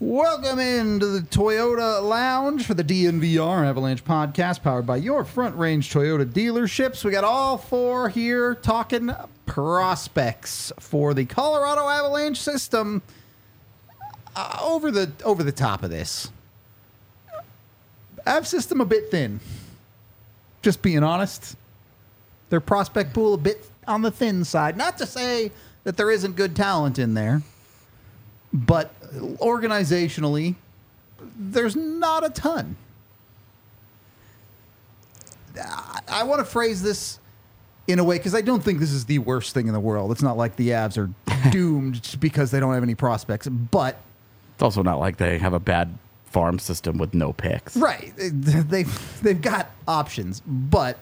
Welcome into the Toyota Lounge for the DNVR Avalanche podcast, powered by your Front Range Toyota dealerships. We got all four here talking prospects for the Colorado Avalanche system. Over the top of this, Av system a bit thin. Just being honest, their prospect pool a bit on the thin side. Not to say that there isn't good talent in there, but organizationally, there's not a ton. I want to phrase this in a way, because I don't think this is the worst thing in the world. It's not like the Avs are doomed just because they don't have any prospects, but it's also not like they have a bad farm system with no picks. Right. They've got options, but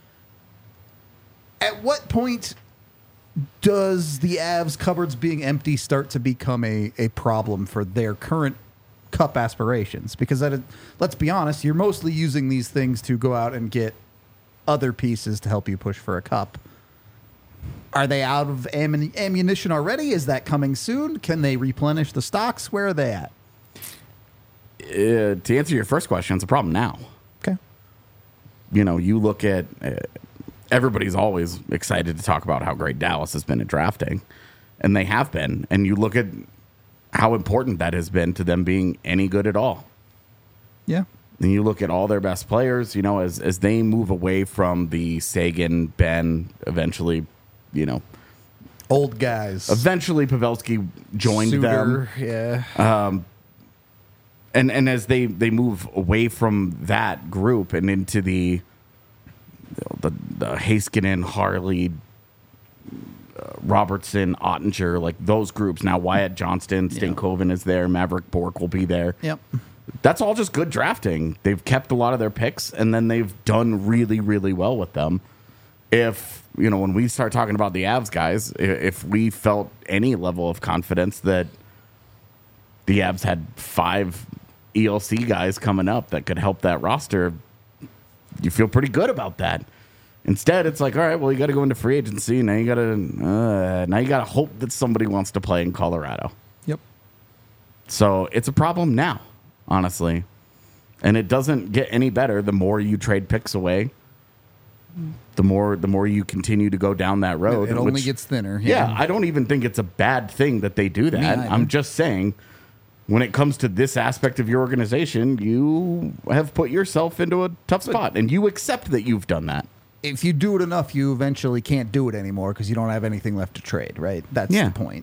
at what point does the Avs cupboards being empty start to become a problem for their current cup aspirations? Because let's be honest, you're mostly using these things to go out and get other pieces to help you push for a cup. Are they out of ammunition already? Is that coming soon? Can they replenish the stocks? Where are they at? To answer your first question, it's a problem now. Okay. You know, you look at... everybody's always excited to talk about how great Dallas has been at drafting, and they have been. And you look at how important that has been to them being any good at all. Yeah. And you look at all their best players, you know, as they move away from the Sagan, Ben, eventually, you know, old guys. Eventually, Pavelski joined Suter, them. Yeah. And as they move away from that group and into the Heiskanen, Harley, Robertson, Ottinger, like those groups. Now Wyatt Johnston, Stankoven is there. Maverick Bourque will be there. Yep. That's all just good drafting. They've kept a lot of their picks, and then they've done really, really well with them. If, you know, when we start talking about the Avs guys, if we felt any level of confidence that the Avs had 5 ELC guys coming up that could help that roster, you feel pretty good about that. Instead, it's like, all right, well, you got to go into free agency. Now you got to hope that somebody wants to play in Colorado. Yep. So it's a problem now, honestly, and it doesn't get any better the more you trade picks away. The more you continue to go down that road. It only gets thinner. Yeah, I don't even think it's a bad thing that they do that. I'm just saying, when it comes to this aspect of your organization, you have put yourself into a tough spot, and you accept that you've done that. If you do it enough, you eventually can't do it anymore because you don't have anything left to trade, right? That's the point.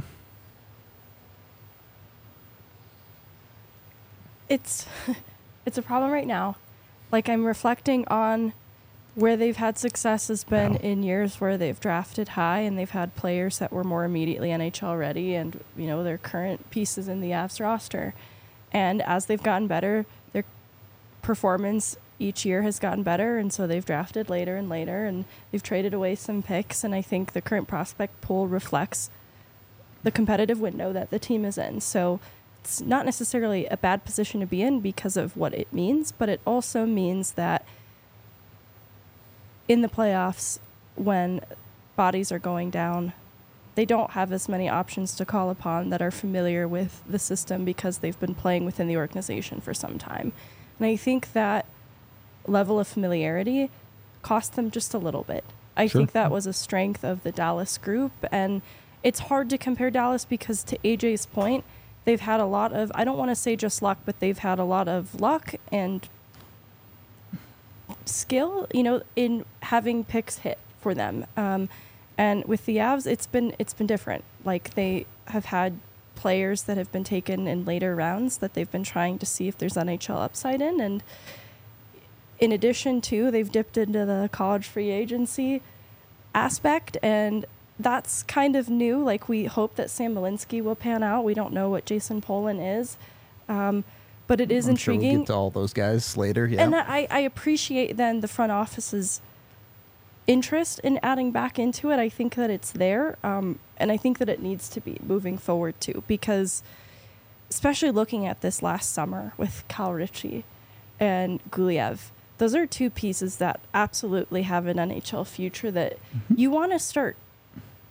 It's a problem right now. Like, I'm reflecting on where they've had success has been in years where they've drafted high and they've had players that were more immediately NHL ready and, you know, their current pieces in the Avs roster. And as they've gotten better, their performance each year has gotten better, and so they've drafted later and later, and they've traded away some picks, and I think the current prospect pool reflects the competitive window that the team is in. So it's not necessarily a bad position to be in because of what it means, but it also means that in the playoffs, when bodies are going down, they don't have as many options to call upon that are familiar with the system because they've been playing within the organization for some time. And I think that level of familiarity cost them just a little bit. I think that was a strength of the Dallas group, and it's hard to compare Dallas because, to AJ's point, they've had a lot of, I don't want to say just luck, but they've had a lot of luck and skill, you know, in having picks hit for them. And with the Avs, it's been different. Like, they have had players that have been taken in later rounds that they've been trying to see if there's NHL upside in, and in addition to, they've dipped into the college free agency aspect, and that's kind of new. Like, we hope that Sam Malinsky will pan out. We don't know what Jason Polin is, but it is intriguing. Sure we'll get to all those guys later. Yeah, and I appreciate then the front office's interest in adding back into it. I think that it's there, and I think that it needs to be moving forward too, because especially looking at this last summer with Cal Ritchie and Guliev, those are two pieces that absolutely have an NHL future that you want to start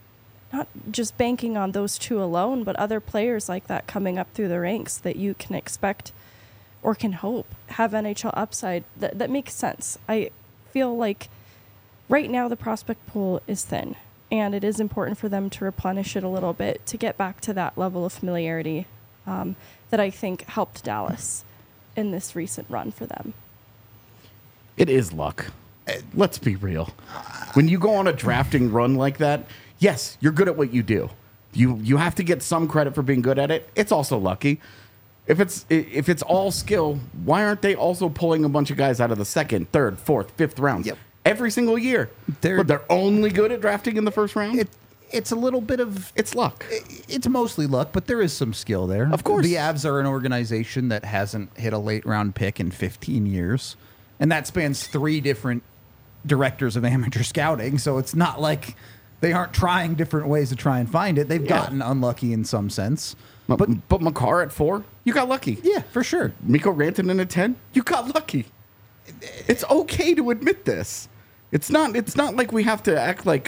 not just banking on those two alone, but other players like that coming up through the ranks that you can expect or can hope have NHL upside. That makes sense. I feel like right now the prospect pool is thin, and it is important for them to replenish it a little bit to get back to that level of familiarity that I think helped Dallas in this recent run for them. It is luck. Let's be real. When you go on a drafting run like that, yes, you're good at what you do. You have to get some credit for being good at it. It's also lucky. If it's all skill, why aren't they also pulling a bunch of guys out of the second, third, fourth, fifth rounds every single year? They're only good at drafting in the first round. It's a little bit of It's luck. It's mostly luck, but there is some skill there. Of course. The Avs are an organization that hasn't hit a late round pick in 15 years, and that spans 3 different directors of amateur scouting. So it's not like they aren't trying different ways to try and find it. They've gotten unlucky in some sense. But Makar at 4, you got lucky. Yeah, for sure. Mikko Rantanen at 10, you got lucky. It's okay to admit this. It's not like we have to act like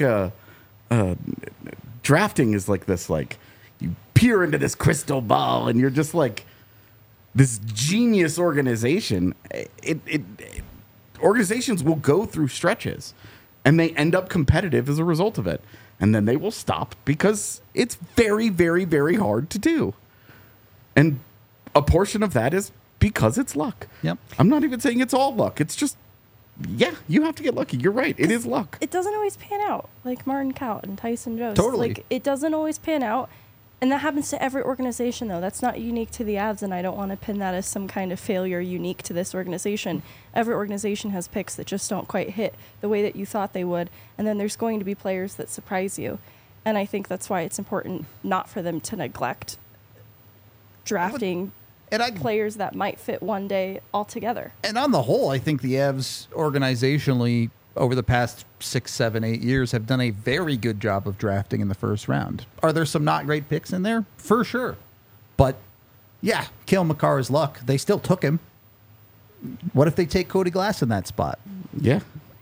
drafting is like this, like you peer into this crystal ball and you're just like this genius organization. Organizations will go through stretches and they end up competitive as a result of it. And then they will stop because it's very, very, very hard to do. And a portion of that is because it's luck. Yep. I'm not even saying it's all luck. It's just, yeah, you have to get lucky. You're right. It is luck. It doesn't always pan out, like Martin Kaut and Tyson Jost. Totally. Like, it doesn't always pan out. And that happens to every organization, though. That's not unique to the Avs, and I don't want to pin that as some kind of failure unique to this organization. Every organization has picks that just don't quite hit the way that you thought they would, and then there's going to be players that surprise you. And I think that's why it's important not for them to neglect drafting players that might fit one day altogether. And on the whole, I think the Avs organizationally over the past 6, 7, 8 years have done a very good job of drafting in the first round. Are there some not great picks in there? For sure. But yeah, Cale Makar's luck. They still took him. What if they take Cody Glass in that spot? Yeah.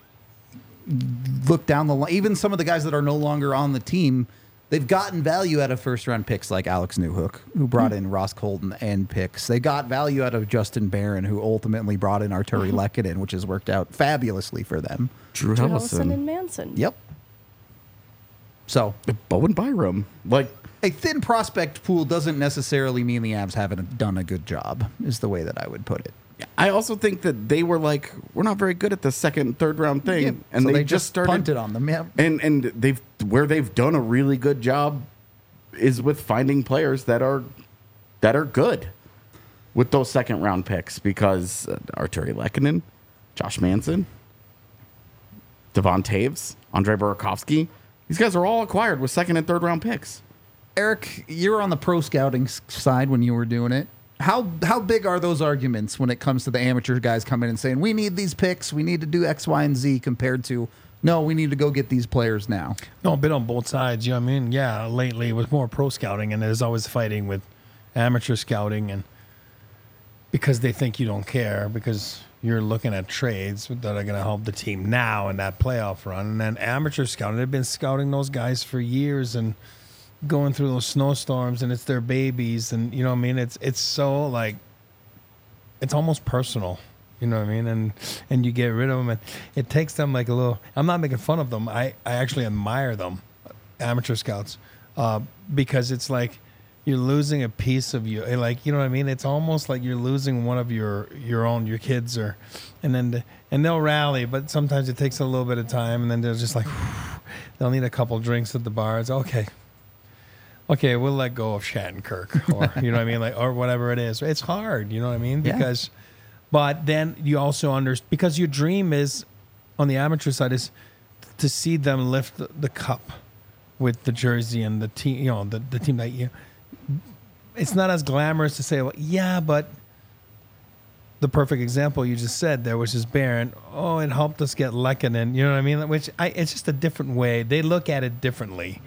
Look down the line. Even some of the guys that are no longer on the team, they've gotten value out of first-round picks like Alex Newhook, who brought in Ross Colton and picks. They got value out of Justin Barron, who ultimately brought in Arturi Lehkonen, which has worked out fabulously for them. Drew Helleson and Manson. Yep. So Bowen Byram. Like, a thin prospect pool doesn't necessarily mean the Avs haven't done a good job, is the way that I would put it. I also think that they were like, we're not very good at the second, third round thing. Yeah, and so they just started punted on them. Yeah. And they've done a really good job is with finding players that are good with those second round picks, because Arturi Lehkonen, Josh Manson, Devon Taves, Andrei Burakovsky, these guys are all acquired with second and third round picks. Eric, you were on the pro scouting side when you were doing it. How big are those arguments when it comes to the amateur guys coming in and saying, we need these picks, we need to do X, Y, and Z, compared to, no, we need to go get these players now? No, a bit on both sides. You know what I mean? Yeah, lately it was more pro scouting, and there's always fighting with amateur scouting, and because they think you don't care, because you're looking at trades that are going to help the team now in that playoff run. And then amateur scouting, they've been scouting those guys for years and going through those snowstorms, and it's their babies, and you know what I mean? It's so like, it's almost personal, you know what I mean? And you get rid of them, and it takes them like a little, I'm not making fun of them. I actually admire them, amateur scouts, because it's like you're losing a piece of you, like, you know what I mean? It's almost like you're losing one of your kids, and they'll rally, but sometimes it takes a little bit of time, and then they're just like, they'll need a couple drinks at the bar. It's okay, we'll let go of Shattenkirk, or you know what I mean, like, or whatever it is. It's hard, you know what I mean? Because, but then you also because your dream is, on the amateur side, is to see them lift the cup with the jersey and the team, you know, the team that you. It's not as glamorous to say, well, yeah, but the perfect example you just said there, which is Barron. Oh, it helped us get Lehkonen, you know what I mean? It's just a different way. They look at it differently.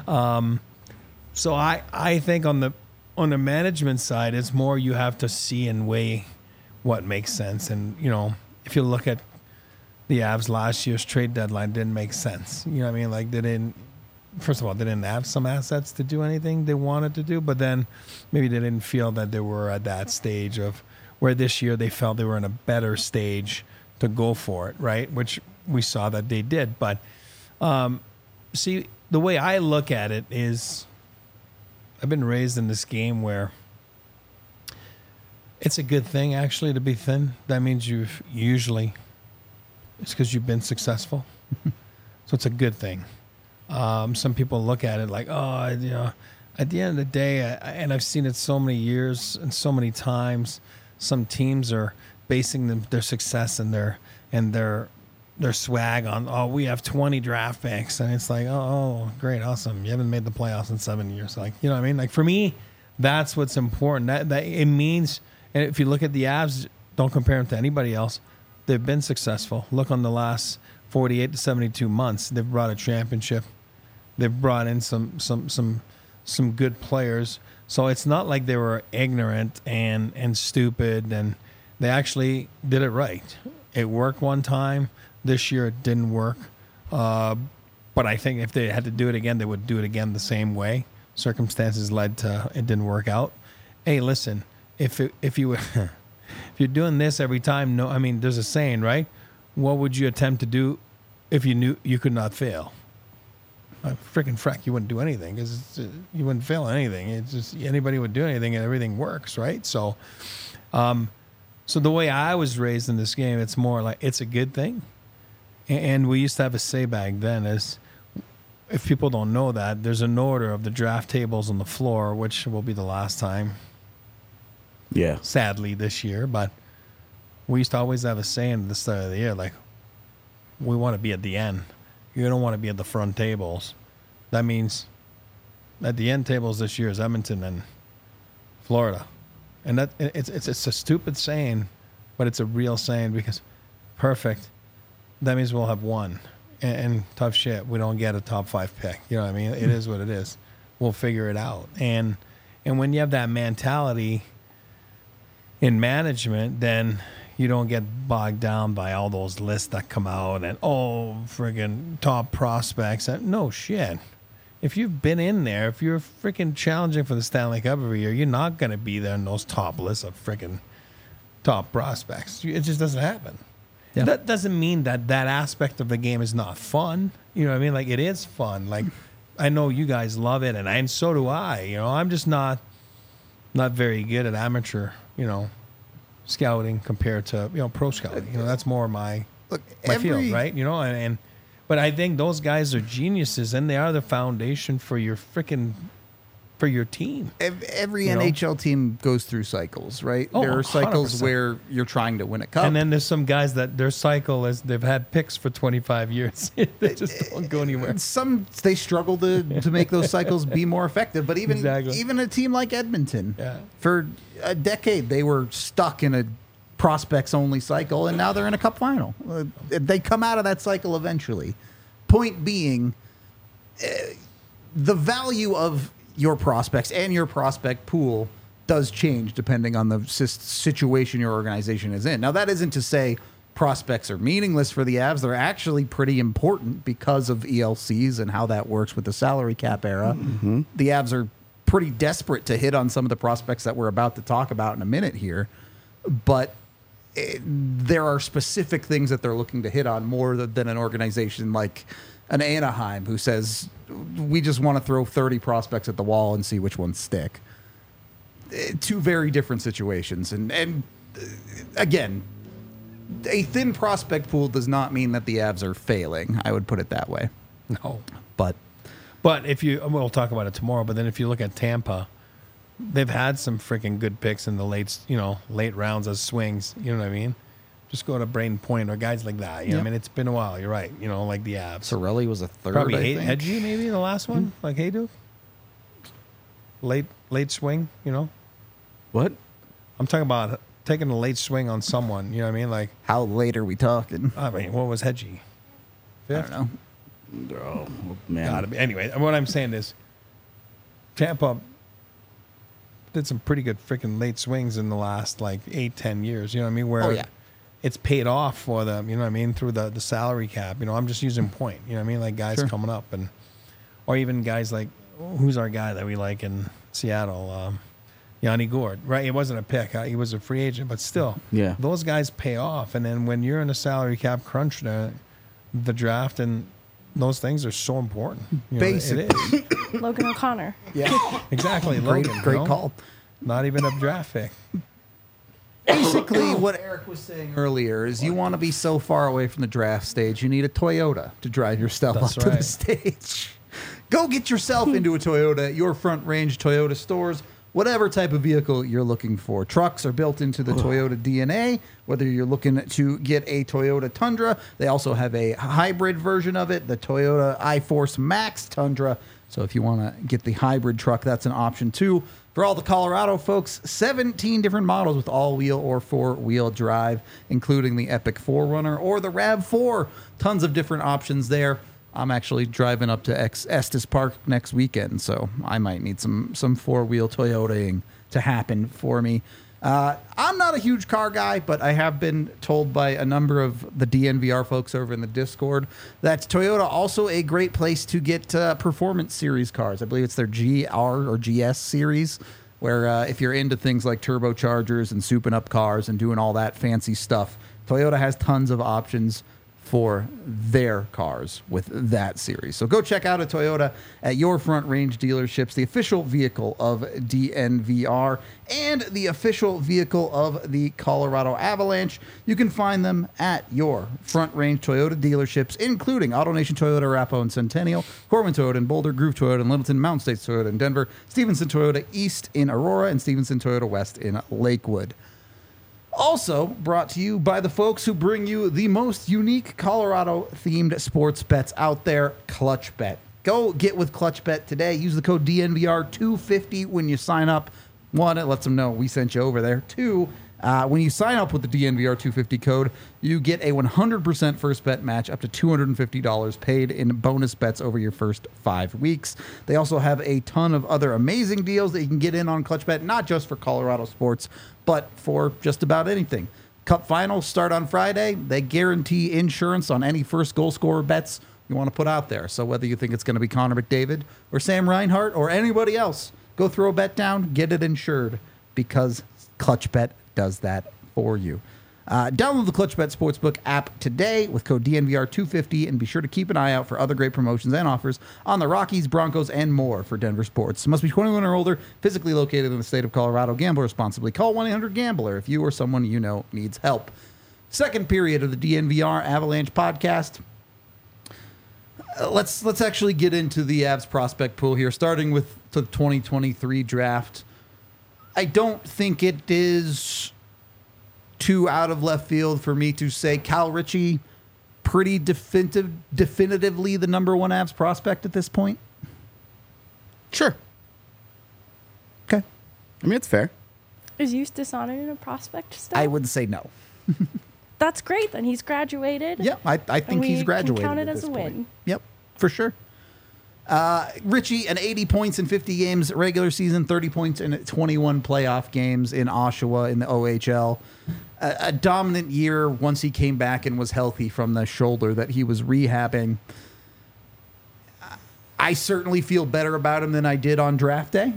So I think on the management side, it's more you have to see and weigh what makes sense. And, you know, if you look at the Avs last year's trade deadline, didn't make sense. You know what I mean? Like, first of all, they didn't have some assets to do anything they wanted to do, but then maybe they didn't feel that they were at that stage of where this year they felt they were in a better stage to go for it, right? Which we saw that they did. But see, the way I look at it is I've been raised in this game where it's a good thing actually to be thin. That means it's because you've been successful. So it's a good thing. Some people look at it like, oh, you know, at the end of the day, and I've seen it so many years and so many times, some teams are basing their success and their swag on, oh, we have 20 draft picks. And it's like, oh, great, awesome. You haven't made the playoffs in 7 years. Like, you know what I mean? Like, for me, that's what's important. That it means, and if you look at the Avs, don't compare them to anybody else. They've been successful. Look on the last 48 to 72 months. They've brought a championship. They've brought in some good players. So it's not like they were ignorant and stupid, and they actually did it right. It worked one time. This year it didn't work. But I think if they had to do it again, they would do it again the same way. Circumstances led to it didn't work out. Hey, listen, if you're doing this every time, no, I mean, there's a saying, right? What would you attempt to do if you knew you could not fail? Freaking frack, you wouldn't do anything because you wouldn't fail at anything. It's just anybody would do anything and everything works, right? So, so the way I was raised in this game, it's more like it's a good thing. And we used to have a say back then is, if people don't know that, there's an order of the draft tables on the floor, which will be the last time. Yeah. Sadly this year, but we used to always have a saying at the start of the year, like, we want to be at the end. You don't want to be at the front tables. That means at the end tables this year is Edmonton and Florida. And that it's a stupid saying, but it's a real saying because perfect. That means we'll have one. And tough shit, we don't get a top 5 pick. You know what I mean? It is what it is. We'll figure it out. And when you have that mentality in management, then you don't get bogged down by all those lists that come out and, oh, friggin' top prospects. No shit. If you've been in there, if you're freaking challenging for the Stanley Cup every year, you're not going to be there in those top lists of freaking top prospects. It just doesn't happen. Yeah. That doesn't mean that aspect of the game is not fun. You know what I mean? Like, it is fun. Like, I know you guys love it, and so do I. You know, I'm just not very good at amateur, you know, scouting compared to, you know, pro scouting. You know, that's more my field, right? You know, but I think those guys are geniuses, and they are the foundation for your team. Every NHL team goes through cycles, right? Oh, there are cycles 100%. where you're trying to win a cup. And then there's some guys that their cycle is they've had picks for 25 years. They just don't go anywhere. Some they struggle to make those cycles be more effective. But even a team like Edmonton, for a decade they were stuck in a prospects only cycle, and now they're in a cup final. They come out of that cycle eventually. Point being, the value of your prospects and your prospect pool does change depending on the situation your organization is in. Now, that isn't to say prospects are meaningless for the Avs. They're actually pretty important because of ELCs and how that works with the salary cap era. Mm-hmm. The Avs are pretty desperate to hit on some of the prospects that we're about to talk about in a minute here. But there are specific things that they're looking to hit on more than an organization like an Anaheim who says, we just want to throw 30 prospects at the wall and see which ones stick. Two very different situations. And again, a thin prospect pool does not mean that the Avs are failing. I would put it that way. No. But we'll talk about it tomorrow, but then if you look at Tampa, they've had some freaking good picks in the late rounds as swings. You know what I mean? Just go to Braden Point or guys like that. You know what I mean? It's been a while. You're right. You know, like the Avs. Sorelli was a third, probably I think. Hedgie, maybe the last one? Like Haydu? Late swing, you know? What? I'm talking about taking a late swing on someone. You know what I mean? Like, how late are we talking? I mean, what was Hedgie? Fifth? I don't know. Oh, man. Gotta be. Anyway, what I'm saying is Tampa did some pretty good freaking late swings in the last, 8-10 years. You know what I mean? Where it's paid off for them, you know what I mean, through the salary cap. You know, I'm just using Point. You know what I mean? Like guys coming up and or even guys like, who's our guy that we like in Seattle? Yanni Gourde, right? He wasn't a pick. He was a free agent, but still, Yeah. those guys pay off. And then when you're in a salary cap crunch, the draft and those things are so important. You know, Basic. it is. Logan O'Connor. Yeah. Exactly. Great, Logan, great you know? call. Not even a draft pick. Basically, what Eric was saying earlier is you want to be so far away from the draft stage, you need a Toyota to drive your stuff That's up to the right. stage. Go get yourself into a Toyota at your Front Range Toyota stores. Whatever type of vehicle you're looking for. Trucks are built into the Toyota DNA. Whether you're looking to get a Toyota Tundra, they also have a hybrid version of it, the Toyota iForce Max Tundra. So if you want to get the hybrid truck, that's an option too. For all the Colorado folks, 17 different models with all-wheel or four-wheel drive, including the Epic 4Runner or the RAV4. Tons of different options there. I'm actually driving up to Estes Park next weekend, so I might need some four-wheel Toyotaing to happen for me. I'm not a huge car guy, but I have been told by a number of the DNVR folks over in the Discord that Toyota also a great place to get performance series cars. I believe it's their GR or GS series, where if you're into things like turbochargers and souping up cars and doing all that fancy stuff, Toyota has tons of options for their cars with that series. So go check out a Toyota at your Front Range dealerships, the official vehicle of DNVR and the official vehicle of the Colorado Avalanche. You can find them at your Front Range Toyota dealerships, including AutoNation Toyota, Arapahoe and Centennial, Corbin Toyota in Boulder, Groove Toyota in Littleton, Mountain States Toyota in Denver, Stevenson Toyota East in Aurora, and Stevenson Toyota West in Lakewood. Also brought to you by the folks who bring you the most unique Colorado-themed sports bets out there, Clutch Bet. Go get with Clutch Bet today. Use the code DNVR250 when you sign up. One, it lets them know we sent you over there. Two, when you sign up with the DNVR250 code, you get a 100% first bet match up to $250 paid in bonus bets over your first 5 weeks. They also have a ton of other amazing deals that you can get in on Clutch Bet, not just for Colorado sports, but for just about anything. Cup finals start on Friday. They guarantee insurance on any first goal scorer bets you want to put out there. So whether you think it's going to be Connor McDavid or Sam Reinhart or anybody else, go throw a bet down, get it insured, because Clutch Bet does that for you. Download the Clutch Bet Sportsbook app today with code DNVR250 and be sure to keep an eye out for other great promotions and offers on the Rockies, Broncos, and more for Denver sports. Must be 21 or older, physically located in the state of Colorado. Gamble responsibly. Call 1-800-GAMBLER if you or someone you know needs help. Second period of the DNVR Avalanche podcast. Let's actually get into the Avs prospect pool here, starting with the 2023 draft. I don't think it is too out of left field for me to say Cal Ritchie pretty definitively the number one Avs prospect at this point. Sure. Okay. I mean, it's fair. Is Eustace Sonnen a prospect still? I would say no. That's great. Then he's graduated. Yeah, I think And he's we graduated. can count it at as this a point. win. Yep, for sure. Ritchie, an 80 points in 50 games regular season, 30 points in 21 playoff games in Oshawa in the OHL. A dominant year once he came back and was healthy from the shoulder that he was rehabbing. I certainly feel better about him than I did on draft day.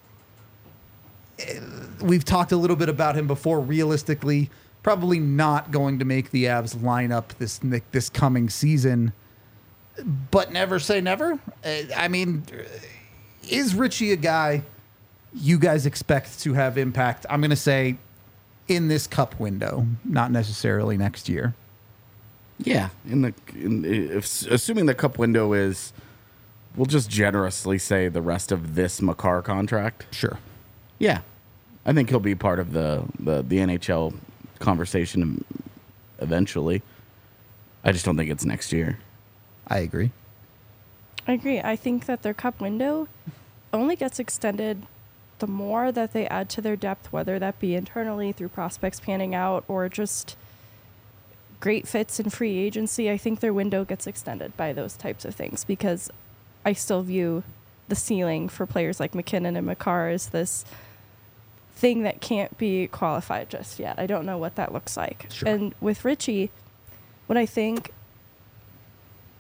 We've talked a little bit about him before. Realistically, probably not going to make the Avs lineup this coming season. But never say never. I mean, is Ritchie a guy you guys expect to have impact? I'm going to say in this cup window, not necessarily next year. Yeah. Assuming the cup window is, we'll just generously say the rest of this Makar contract. Sure. Yeah. I think he'll be part of the NHL conversation eventually. I just don't think it's next year. I agree. I agree. I think that their cup window only gets extended the more that they add to their depth, whether that be internally through prospects panning out or just great fits in free agency. I think their window gets extended by those types of things because I still view the ceiling for players like McKinnon and Makar as this thing that can't be qualified just yet. I don't know what that looks like. Sure. And with Ritchie, what I think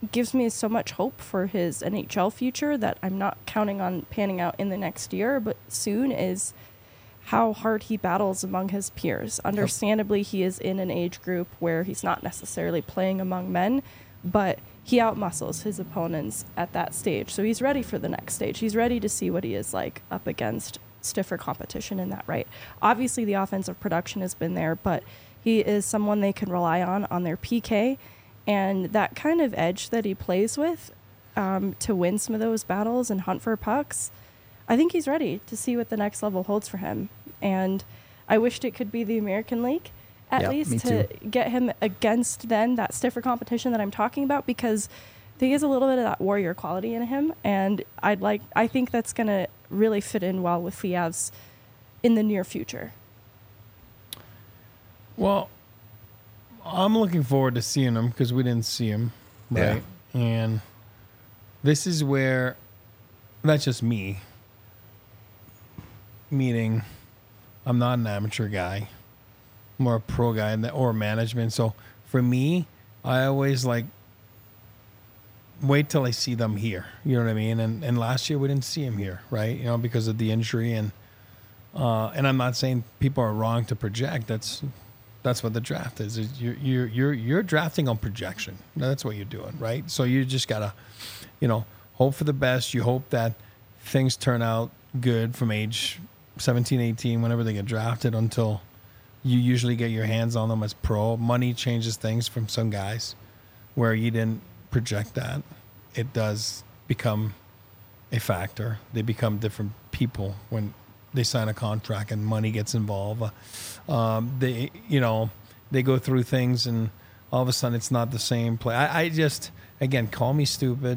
gives me so much hope for his NHL future that I'm not counting on panning out in the next year, but soon, is how hard he battles among his peers. Understandably, he is in an age group where he's not necessarily playing among men, but he outmuscles his opponents at that stage. So he's ready for the next stage. He's ready to see what he is like up against stiffer competition in that right. Obviously, the offensive production has been there, but he is someone they can rely on their PK, and that kind of edge that he plays with to win some of those battles and hunt for pucks. I think he's ready to see what the next level holds for him. And I wished it could be the American League, at least, to get him against then that stiffer competition that I'm talking about, because he has a little bit of that warrior quality in him. And I think that's going to really fit in well with the Avs in the near future. Well, I'm looking forward to seeing him because we didn't see him, right? Yeah. And this is where, that's just me, meaning I'm not an amateur guy, I'm more a pro guy or management. So for me, I always wait till I see them here. You know what I mean? And last year we didn't see him here, right? You know, because of the injury, and I'm not saying people are wrong to project. That's what the draft is. You're drafting on projection. That's what you're doing, right? So you just gotta, hope for the best. You hope that things turn out good from age 17, 18, whenever they get drafted, until you usually get your hands on them as pro. Money changes things from some guys where you didn't project that. It does become a factor. They become different people when they sign a contract and money gets involved. They go through things, and all of a sudden it's not the same play. I just, again, call me stupid.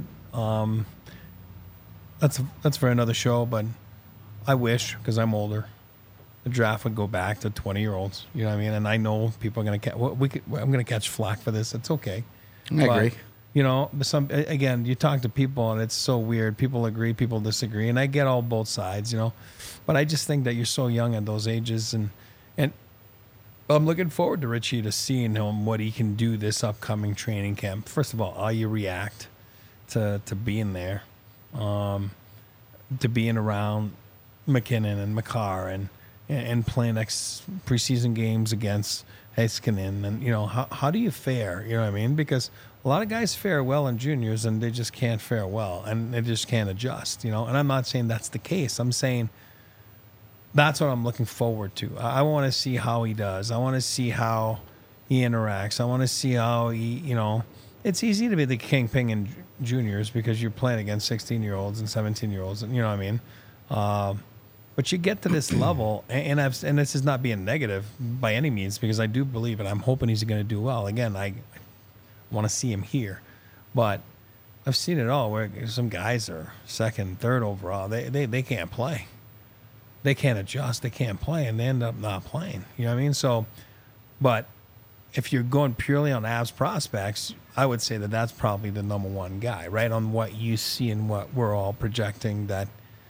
That's for another show, but I wish, because I'm older, the draft would go back to 20-year-olds. You know what I mean? And I know people are going to I'm going to catch flack for this. It's okay. I agree. Again, you talk to people and it's so weird. People agree, people disagree, and I get all both sides, But I just think that you're so young at those ages, and I'm looking forward to Richie, to seeing him, what he can do this upcoming training camp. First of all, how you react to being there, to being around McKinnon and Makar and playing next preseason games against Heiskanen, and how do you fare? You know what I mean? Because a lot of guys fare well in juniors, and they just can't fare well, and they just can't adjust. And I'm not saying that's the case. I'm saying that's what I'm looking forward to. I want to see how he does. I want to see how he interacts. I want to see how he, it's easy to be the kingpin in juniors because you're playing against 16-year-olds and 17-year-olds, and you know what I mean? But you get to this level, and this is not being negative by any means, because I do believe it. I'm hoping he's going to do well. Again, I want to see him here, but I've seen it all where some guys are second, third overall. They can't play. They can't adjust. They can't play, and they end up not playing. You know what I mean? So, but if you're going purely on Avs prospects, I would say that that's probably the number one guy, right? On what you see and what we're all projecting that,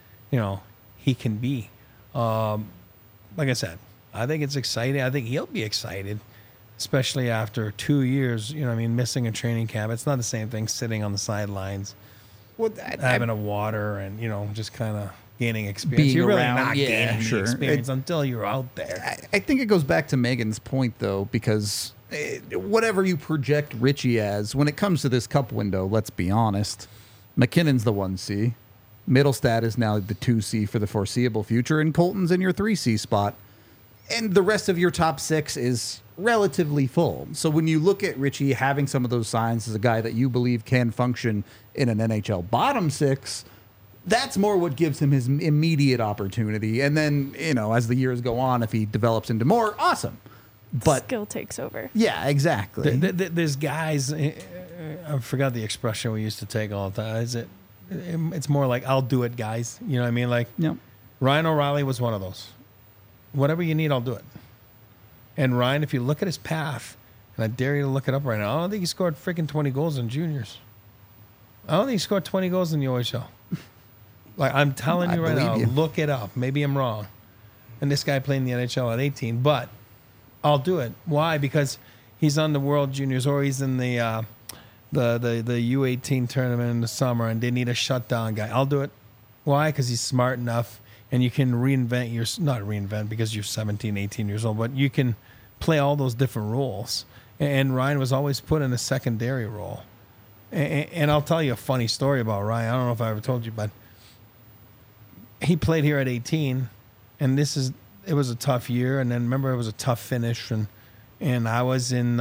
he can be. Like I said, I think it's exciting. I think he'll be excited, especially after 2 years, missing a training camp. It's not the same thing sitting on the sidelines, having a water and, just kind of gaining experience. You're really not gaining the experience until you're out there. I think it goes back to Megan's point, though, because whatever you project Richie as, when it comes to this cup window, let's be honest, McKinnon's the 1C. Middlestat is now the 2C for the foreseeable future, and Colton's in your 3C spot. And the rest of your top six is relatively full. So when you look at Richie having some of those signs as a guy that you believe can function in an NHL bottom six, that's more what gives him his immediate opportunity. And then, as the years go on, if he develops into more, awesome. But skill takes over. Yeah, exactly. There's guys, I forgot the expression we used to take all the time. It's more like, I'll do it, guys. You know what I mean? Like, yep. Ryan O'Reilly was one of those. Whatever you need, I'll do it. And Ryan, if you look at his path, and I dare you to look it up right now, I don't think he scored freaking 20 goals in juniors. I don't think he scored 20 goals in the OHL. Like, I'm telling you right now, look it up. Maybe I'm wrong. And this guy played in the NHL at 18, but I'll do it. Why? Because he's on the World Juniors, or he's in the the U18 tournament in the summer and they need a shutdown guy. I'll do it. Why? Because he's smart enough and you can not reinvent because you're 17, 18 years old, but you can play all those different roles. And Ryan was always put in a secondary role. And I'll tell you a funny story about Ryan. I don't know if I ever told you, but he played here at 18, and it was a tough year. And then remember, it was a tough finish, and I was in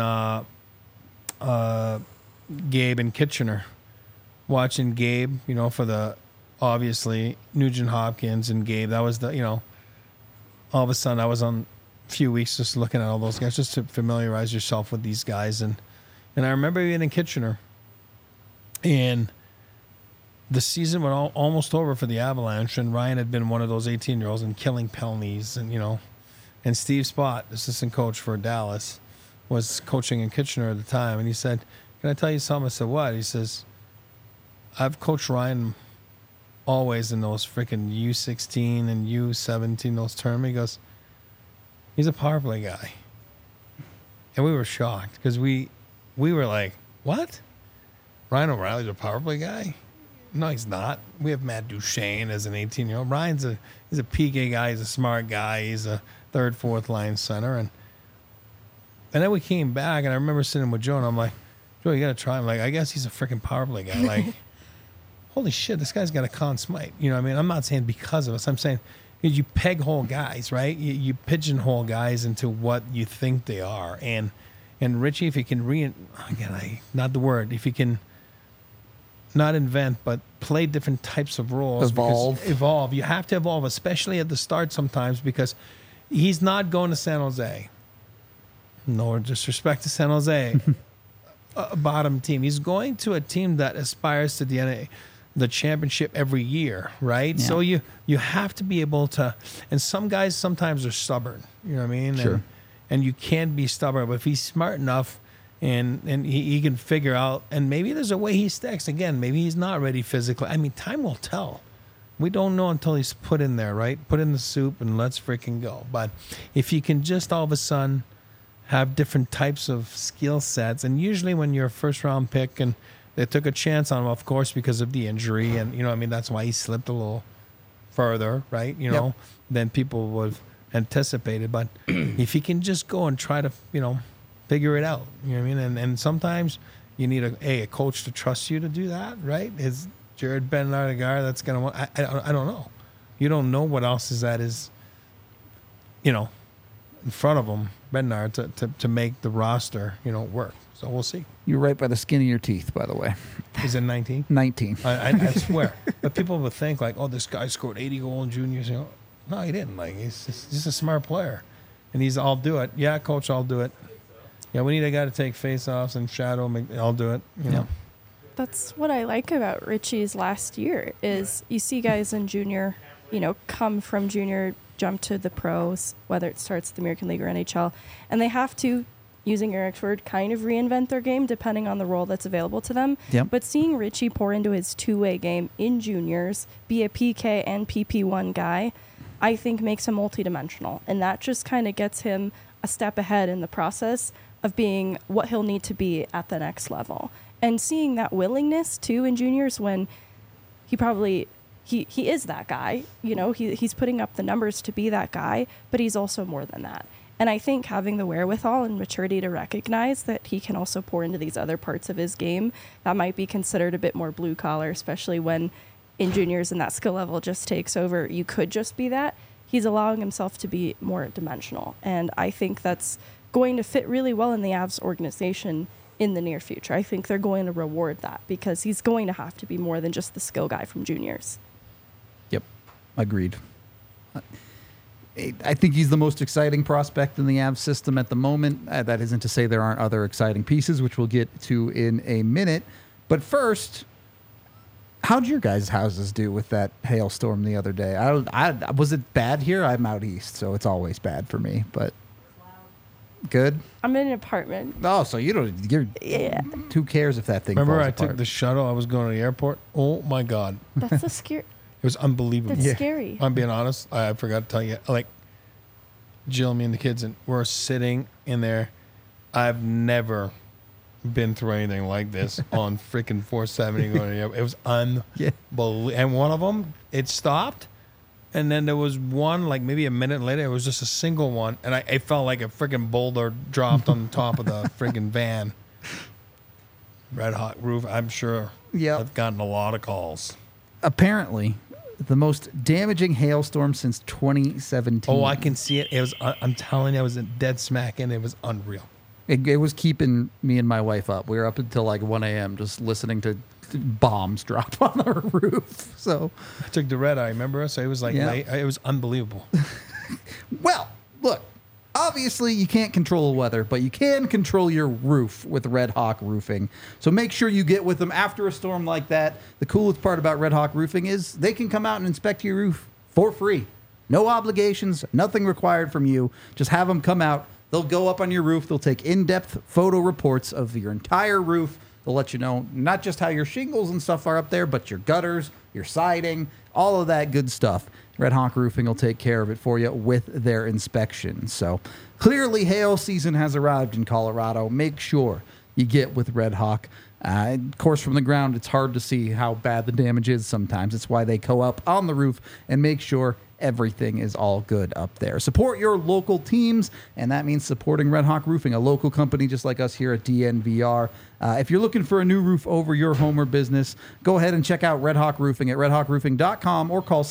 Gabe in Kitchener, watching Gabe, for the obviously Nugent Hopkins and Gabe. That was all of a sudden I was on a few weeks just looking at all those guys just to familiarize yourself with these guys. And I remember being in Kitchener, and the season was almost over for the Avalanche, and Ryan had been one of those 18-year-olds and killing penalties, and Steve Spott, assistant coach for Dallas, was coaching in Kitchener at the time, and he said, "Can I tell you something?" I said, "What?" He says, "I've coached Ryan always in those freaking U16 and U17, those tournaments." He goes, "He's a power play guy." And we were shocked because we were like, "What? Ryan O'Reilly's a power play guy?" No, he's not. We have Matt Duchene as an 18-year-old. Ryan's he's a PK guy. He's a smart guy. He's a third, fourth line center. And then we came back, and I remember sitting with Joe, and I'm like, "Joe, you got to try him." Like, I guess he's a freaking power play guy. Like, holy shit, this guy's got a Conn Smythe. You know what I mean? I'm not saying because of us. I'm saying you peg hole guys, right? You pigeonhole guys into what you think they are. And Richie, if he can if he can not invent, but play different types of roles. Evolve. You have to evolve, especially at the start sometimes, because he's not going to San Jose. No disrespect to San Jose, a bottom team. He's going to a team that aspires to the championship every year, right? Yeah. So you have to be able to, and some guys sometimes are stubborn, you know what I mean? Sure. And you can be stubborn, but if he's smart enough and he can figure out, and maybe there's a way he stacks. Again, maybe he's not ready physically. I mean, time will tell. We don't know until he's put in there, right? Put in the soup and let's freaking go. But if you can just all of a sudden have different types of skill sets, and usually when you're a first-round pick, and they took a chance on him, of course, because of the injury, and, that's why he slipped a little further, right, than people would have anticipated. But if he can just go and try to, figure it out. You know what I mean? And sometimes you need a coach to trust you to do that, right? Is Jared Bednar the guy that's going to want? I don't know. You don't know what else is at his, in front of him, Bednar, to make the roster, work. So we'll see. You're right by the skin of your teeth, by the way. He's in 19? 19. I swear. But people would think, like, oh, this guy scored 80 goals in juniors. No, he didn't. Like, he's just a smart player. And I'll do it. Yeah, coach, I'll do it. Yeah, we need a guy to take face-offs and shadow. I'll do it. You know. That's what I like about Richie's last year is you see guys in junior, come from junior, jump to the pros, whether it starts at the American League or NHL, and they have to, using Eric's word, kind of reinvent their game depending on the role that's available to them. Yep. But seeing Richie pour into his two-way game in juniors, be a PK and PP1 guy, I think makes him multidimensional. And that just kind of gets him a step ahead in the process of being what he'll need to be at the next level. And seeing that willingness, too, in juniors when he probably... He is that guy, he's putting up the numbers to be that guy, but he's also more than that. And I think having the wherewithal and maturity to recognize that he can also pour into these other parts of his game that might be considered a bit more blue collar, especially when in juniors and that skill level just takes over. You could just be that. He's allowing himself to be more dimensional. And I think that's going to fit really well in the Avs organization in the near future. I think they're going to reward that because he's going to have to be more than just the skill guy from juniors. Yep, agreed. I think he's the most exciting prospect in the Avs system at the moment. That isn't to say there aren't other exciting pieces, which we'll get to in a minute. But first, how'd your guys' houses do with that hailstorm the other day? Was it bad here? I'm out east, so it's always bad for me. But good. I'm in an apartment. Oh, so you're who cares if that thing? Remember, falls I apart? took the shuttle. I was going to the airport. Oh my god, That's a scary. it was unbelievable. That's scary. I'm being honest. I forgot to tell you. Like Jill, me, and the kids, and we're sitting in there. I've never been through anything like this on freaking 470. It was unbelievable. And one of them, it stopped. And then there was one, like maybe a minute later, it was just a single one. And it felt like a freaking boulder dropped on the top of the freaking van. Red hot roof, I'm sure. Yeah. I've gotten a lot of calls. Apparently, the most damaging hailstorm since 2017. Oh, I can see it. It was. I'm telling you, I was dead smack in. It was unreal. It was keeping me and my wife up. We were up until like 1 a.m. just listening to bombs drop on our roof. So I took the red eye, remember? So it was like, it was unbelievable. Well, look, obviously you can't control the weather, but you can control your roof with Red Hawk Roofing. So make sure you get with them after a storm like that. The coolest part about Red Hawk Roofing is they can come out and inspect your roof for free. No obligations, nothing required from you. Just have them come out. They'll go up on your roof. They'll take in-depth photo reports of your entire roof. They'll let you know not just how your shingles and stuff are up there, but your gutters, your siding, all of that good stuff. Red Hawk Roofing will take care of it for you with their inspection. So clearly hail season has arrived in Colorado. Make sure you get with Red Hawk. Of course, from the ground, it's hard to see how bad the damage is sometimes. It's why they go up on the roof and make sure everything is all good up there. Support your local teams, and that means supporting Red Hawk Roofing, a local company just like us here at DNVR. If you're looking for a new roof over your home or business, go ahead and check out Red Hawk Roofing at redhawkroofing.com or call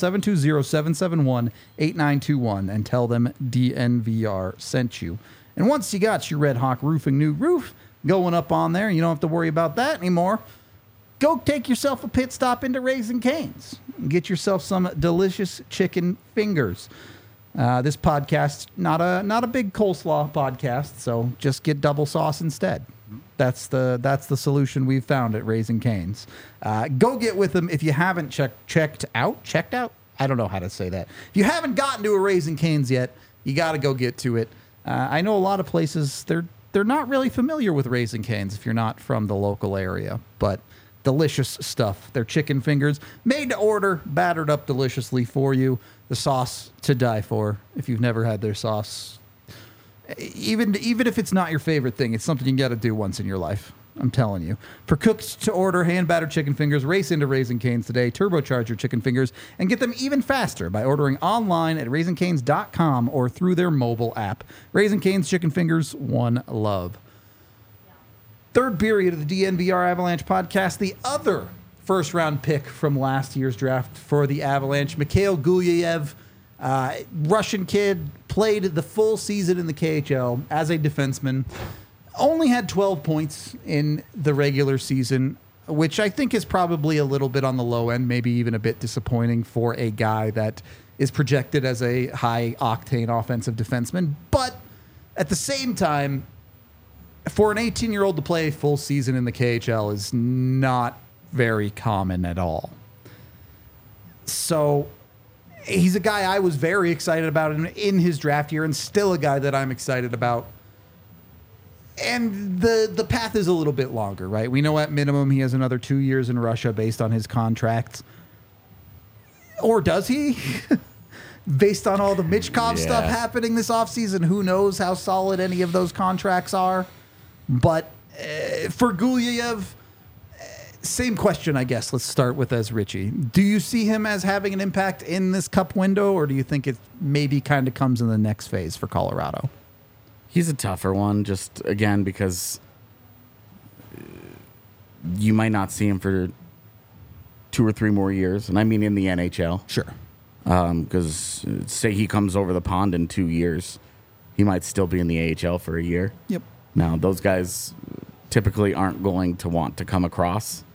720-771-8921 and tell them DNVR sent you. And once you got your Red Hawk Roofing new roof going up on there, you don't have to worry about that anymore. Go take yourself a pit stop into Raising Cane's and get yourself some delicious chicken fingers. This podcast, not a big coleslaw podcast, so just get double sauce instead. That's the solution we've found at Raising Cane's. Go get with them if you haven't checked out. I don't know how to say that. If you haven't gotten to a Raising Cane's yet, you got to go get to it. I know a lot of places they're not really familiar with Raising Cane's if you're not from the local area, but delicious stuff. Their chicken fingers, made to order, battered up deliciously for you. The sauce to die for. If you've never had their sauce, even if it's not your favorite thing, it's something you got to do once in your life. I'm telling you. For cooked to order hand battered chicken fingers, race into Raising Cane's today. Turbocharge your chicken fingers and get them even faster by ordering online at raisingcanes.com or through their mobile app. Raising Cane's chicken fingers, one love. Third period of the DNVR Avalanche podcast, the other first-round pick from last year's draft for the Avalanche, Mikhail Gulyayev, Russian kid, played the full season in the KHL as a defenseman, only had 12 points in the regular season, which I think is probably a little bit on the low end, maybe even a bit disappointing for a guy that is projected as a high-octane offensive defenseman. But at the same time, for an 18-year-old to play a full season in the KHL is not very common at all. So he's a guy I was very excited about in his draft year and still a guy that I'm excited about. And the path is a little bit longer, right? We know at minimum he has another 2 years in Russia based on his contract. Or does he? Based on all the Michkov stuff happening this offseason, who knows how solid any of those contracts are. But for Gulyayev, same question, I guess. Let's start with as Richie. Do you see him as having an impact in this cup window, or do you think it maybe kind of comes in the next phase for Colorado? He's a tougher one, just, again, because you might not see him for 2 or 3 more years, and I mean in the NHL. Sure. Because say he comes over the pond in 2 years, he might still be in the AHL for a year. Yep. Now, those guys typically aren't going to want to come across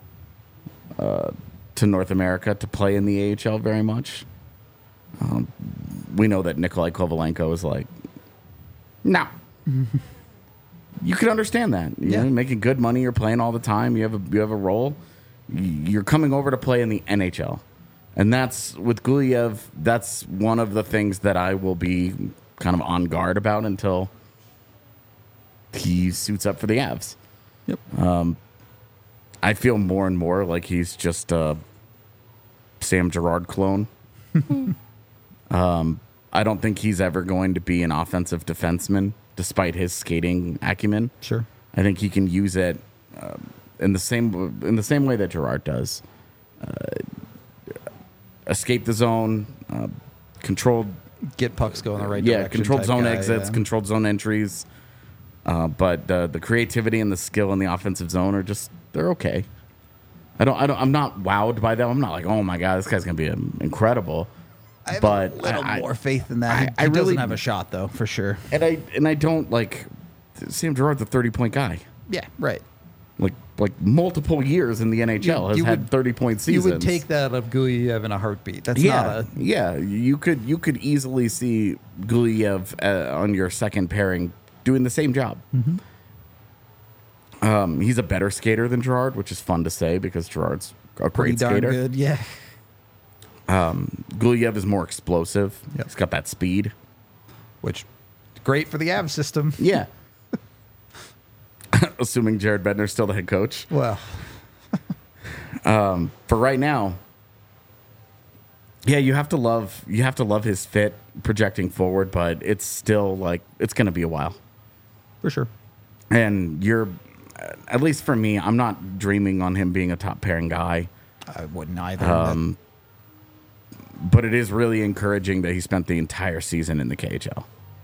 to North America to play in the AHL very much. We know that Nikolai Kovalenko is like, no. You can understand that. You're making good money. You're playing all the time. You have a role. You're coming over to play in the NHL. And that's, with Gulyayev, that's one of the things that I will be kind of on guard about until he suits up for the Avs. Yep. I feel more and more like he's just a Sam Girard clone. I don't think he's ever going to be an offensive defenseman, despite his skating acumen. Sure. I think he can use it in the same way that Gerard does. Escape the zone, controlled. Get pucks going the right direction. Yeah, controlled type zone guy, exits, yeah. controlled zone entries. But the creativity and the skill in the offensive zone are just, they're okay. I'm not wowed by them. I'm not like, oh my God, this guy's going to be incredible. I have but a little more faith in that. He I really doesn't have a shot, though, for sure. And I don't like Sam Gerard's a 30-point guy. Yeah, right. Like multiple years in the NHL has had 30-point seasons. You would take that of Gulyev in a heartbeat. That's yeah, not a... yeah. You could easily see Gulyev on your second pairing doing the same job. Mm-hmm. He's a better skater than Gerard, which is fun to say because Gerard's a Pretty great darn skater. good, yeah. Gulyev is more explosive. Yep. He's got that speed. Which, great for the Avs system. Yeah. Assuming Jared Bednar's still the head coach. Well, For right now, yeah, you have to love his fit projecting forward, but it's still like it's going to be a while. for sure. And you're, at least for me, I'm not dreaming on him being a top pairing guy. I wouldn't either. But it is really encouraging that he spent the entire season in the KHL.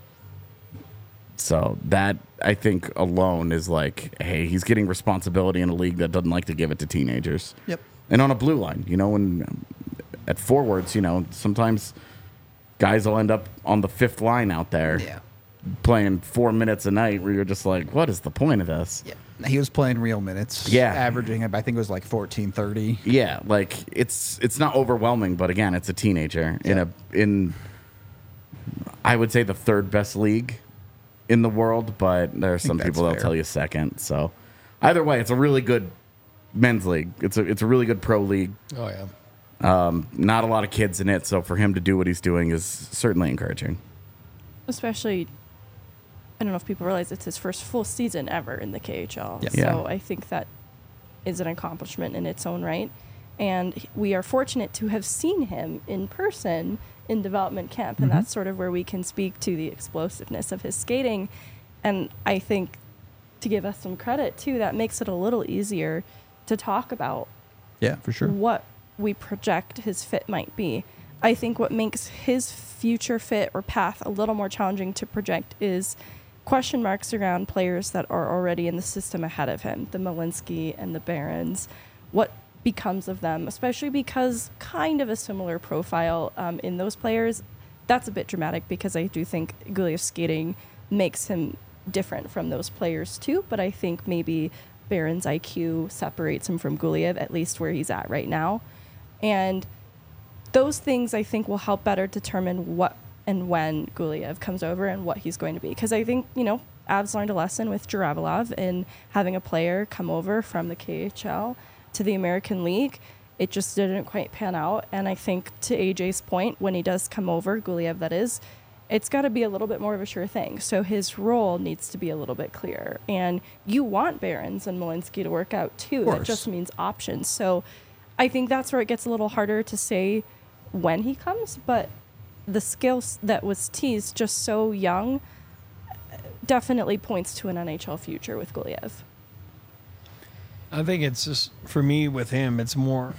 So that, I think, alone is like, hey, he's getting responsibility in a league that doesn't like to give it to teenagers. Yep. And on a blue line, when at forwards, sometimes guys will end up on the fifth line out there Yeah. playing 4 minutes a night where you're just like, what is the point of this? Yeah. He was playing real minutes. Yeah. Averaging, I think it was like 14, 30. Yeah, like it's not overwhelming, but again, it's a teenager in I would say the third best league in the world, but there are some that's people that'll fair. tell you second. So either way, it's a really good men's league. It's a really good pro league. Oh yeah. Not a lot of kids in it, so for him to do what he's doing is certainly encouraging. Especially, I don't know if people realize it's his first full season ever in the KHL. Yeah. So Yeah. I think that is an accomplishment in its own right. And we are fortunate to have seen him in person in development camp. And that's sort of where we can speak to the explosiveness of his skating. And I think to give us some credit, too, that makes it a little easier to talk about Yeah, for sure. what we project his fit might be. I think what makes his future fit or path a little more challenging to project is question marks around players that are already in the system ahead of him, the Malinsky and the Barons. What becomes of them, especially because kind of a similar profile in those players. That's a bit dramatic because I do think Gulyev's skating makes him different from those players too, but I think maybe Barron's IQ separates him from Gulyev, at least where he's at right now. And those things I think will help better determine what and when Gulyev comes over and what he's going to be. Because I think, Avs learned a lesson with Jaravalov in having a player come over from the KHL to the American League. It just didn't quite pan out. And I think to AJ's point, when he does come over, Gulyev that is, it's got to be a little bit more of a sure thing. So his role needs to be a little bit clearer. And you want Barons and Malinsky to work out too. That just means options. So I think that's where it gets a little harder to say when he comes, but the skills that was teased just so young definitely points to an NHL future with Gulyev. I think it's just, for me with him, it's more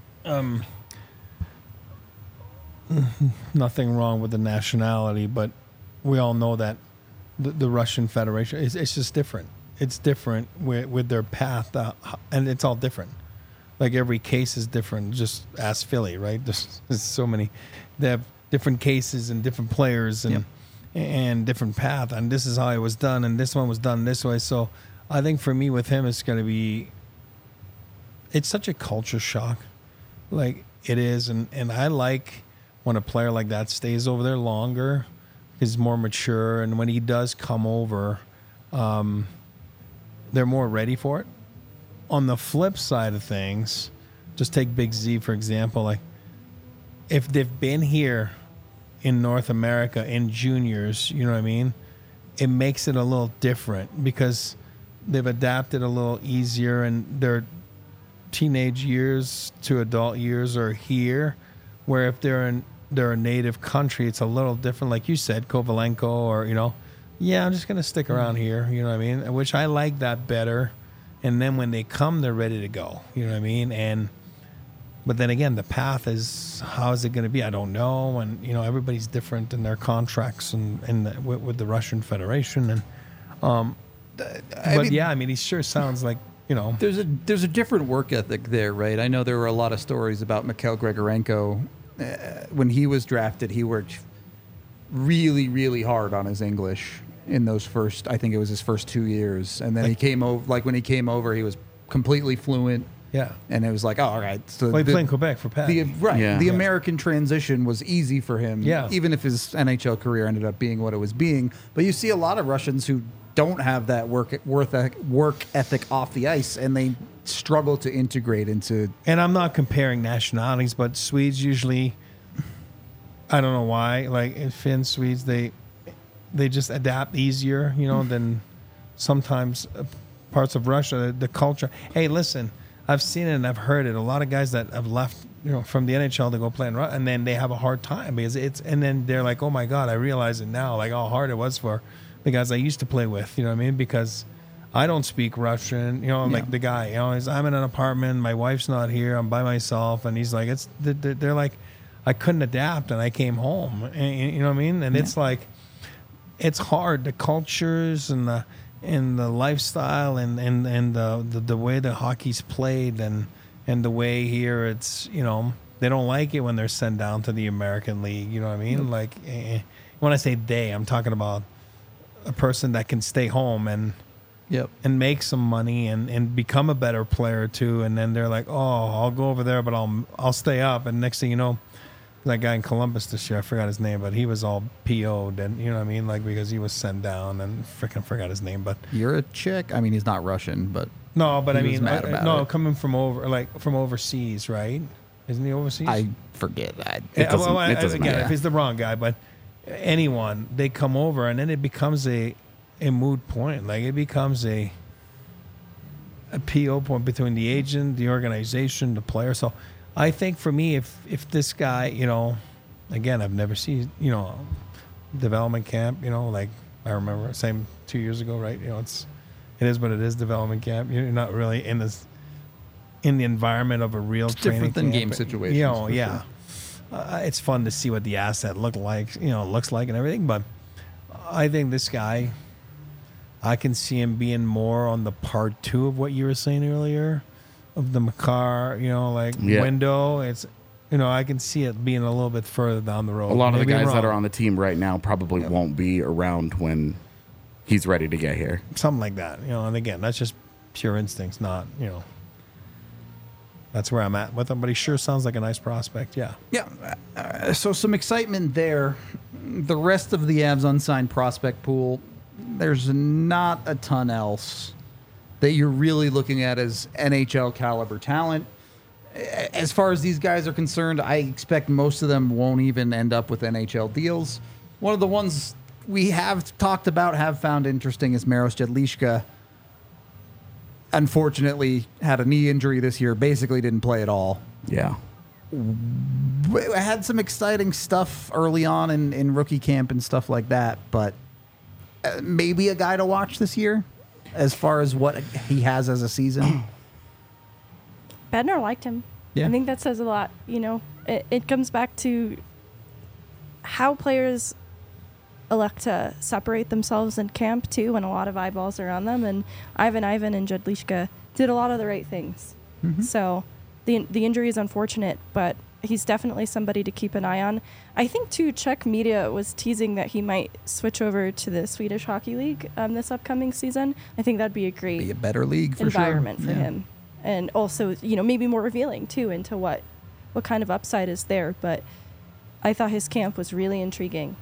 nothing wrong with the nationality, but we all know that the Russian Federation, it's just different. It's different with their path, and it's all different. Like every case is different. Just ask Philly, right? There's so many. They have different cases and different players and different path. And this is how it was done, and this one was done this way. So I think for me with him, it's going to be. It's such a culture shock, like it is, and I like when a player like that stays over there longer, is more mature, and when he does come over, they're more ready for it. On the flip side of things, just take Big Z for example. Like if they've been here in North America in juniors, you know what I mean? It makes it a little different because they've adapted a little easier, and their teenage years to adult years are here. Where if they're in their native country, it's a little different. Like you said, Kovalenko or yeah, I'm just going to stick around here. You know what I mean? Which I like that better. And then when they come, they're ready to go. You know what I mean? But then again, the path is, how is it going to be? I don't know. And, you know, everybody's different in their contracts with the Russian Federation. And, I mean, he sure sounds like, you know. There's a different work ethic there, right? I know there were a lot of stories about Mikhail Grigorenko. When he was drafted, he worked really, really hard on his English in those first, I think it was his first 2 years. And then he came over, like when he came over, he was completely fluent. Yeah. And it was like, oh, all right. So he played in Quebec for Pat. The American transition was easy for him, even if his NHL career ended up being what it was being. But you see a lot of Russians who don't have that work ethic off the ice, and they struggle to integrate into. And I'm not comparing nationalities, but Swedes usually, I don't know why, like in Finns, Swedes, they just adapt easier, you know, than sometimes parts of Russia, the culture. Hey, listen, I've seen it and I've heard it. A lot of guys that have left, you know, from the NHL to go play in Russia, and then they have a hard time because and then they're like, oh my God, I realize it now, like how hard it was for the guys I used to play with, you know what I mean? Because I don't speak Russian, you know, like the guy, you know, I'm in an apartment, my wife's not here, I'm by myself, and he's like, they're like, I couldn't adapt, and I came home, and, you know what I mean? And it's like, it's hard, the cultures and the lifestyle and the way the hockey's played and the way here it's, you know, they don't like it when they're sent down to the American League, you know what I mean? Like, when I say they, I'm talking about a person that can stay home and make some money and become a better player too, and then they're like, oh, I'll go over there, but I'll stay up, and next thing you know, that guy in Columbus this year, I forgot his name, but he was all PO'd, and you know what I mean, like because he was sent down, and freaking forgot his name. But you're a chick. I mean, he's not Russian, but no, but I mean, it. Coming from overseas, right? Isn't he overseas? I forget that. It doesn't matter. If he's the wrong guy, but anyone, they come over, and then it becomes a moot point. Like it becomes a PO point between the agent, the organization, the player. So I think for me, if this guy, you know, again, I've never seen, you know, development camp, you know, like I remember same 2 years ago, right? You know, it is what it is, development camp. You're not really in the environment of a real training different than camp. game situations. You know, yeah. It's fun to see what the asset looks like and everything. But I think this guy, I can see him being more on the part two of what you were saying earlier, of the Makar, you know, window. It's, you know, I can see it being a little bit further down the road. A lot of the guys that are on the team right now probably won't be around when he's ready to get here. Something like that, you know. And again, that's just pure instincts, not, you know. That's where I'm at with him, but he sure sounds like a nice prospect, yeah. Yeah, so some excitement there. The rest of the Avs unsigned prospect pool, there's not a ton else that you're really looking at as NHL caliber talent. As far as these guys are concerned, I expect most of them won't even end up with NHL deals. One of the ones we have talked about, have found interesting, is Maros Jedlička. Unfortunately, had a knee injury this year, basically didn't play at all. Yeah. Had some exciting stuff early on in rookie camp and stuff like that, but maybe a guy to watch this year as far as what he has as a season. Bednar liked him. Yeah. I think that says a lot. You know, it comes back to how players elect to separate themselves in camp too, when a lot of eyeballs are on them. And Ivan and Jedlička did a lot of the right things. Mm-hmm. So the injury is unfortunate, but he's definitely somebody to keep an eye on. I think too, Czech media was teasing that he might switch over to the Swedish Hockey League this upcoming season. I think that'd be a great be a better league for environment sure. for him, and also, you know, maybe more revealing too into what kind of upside is there. But I thought his camp was really intriguing.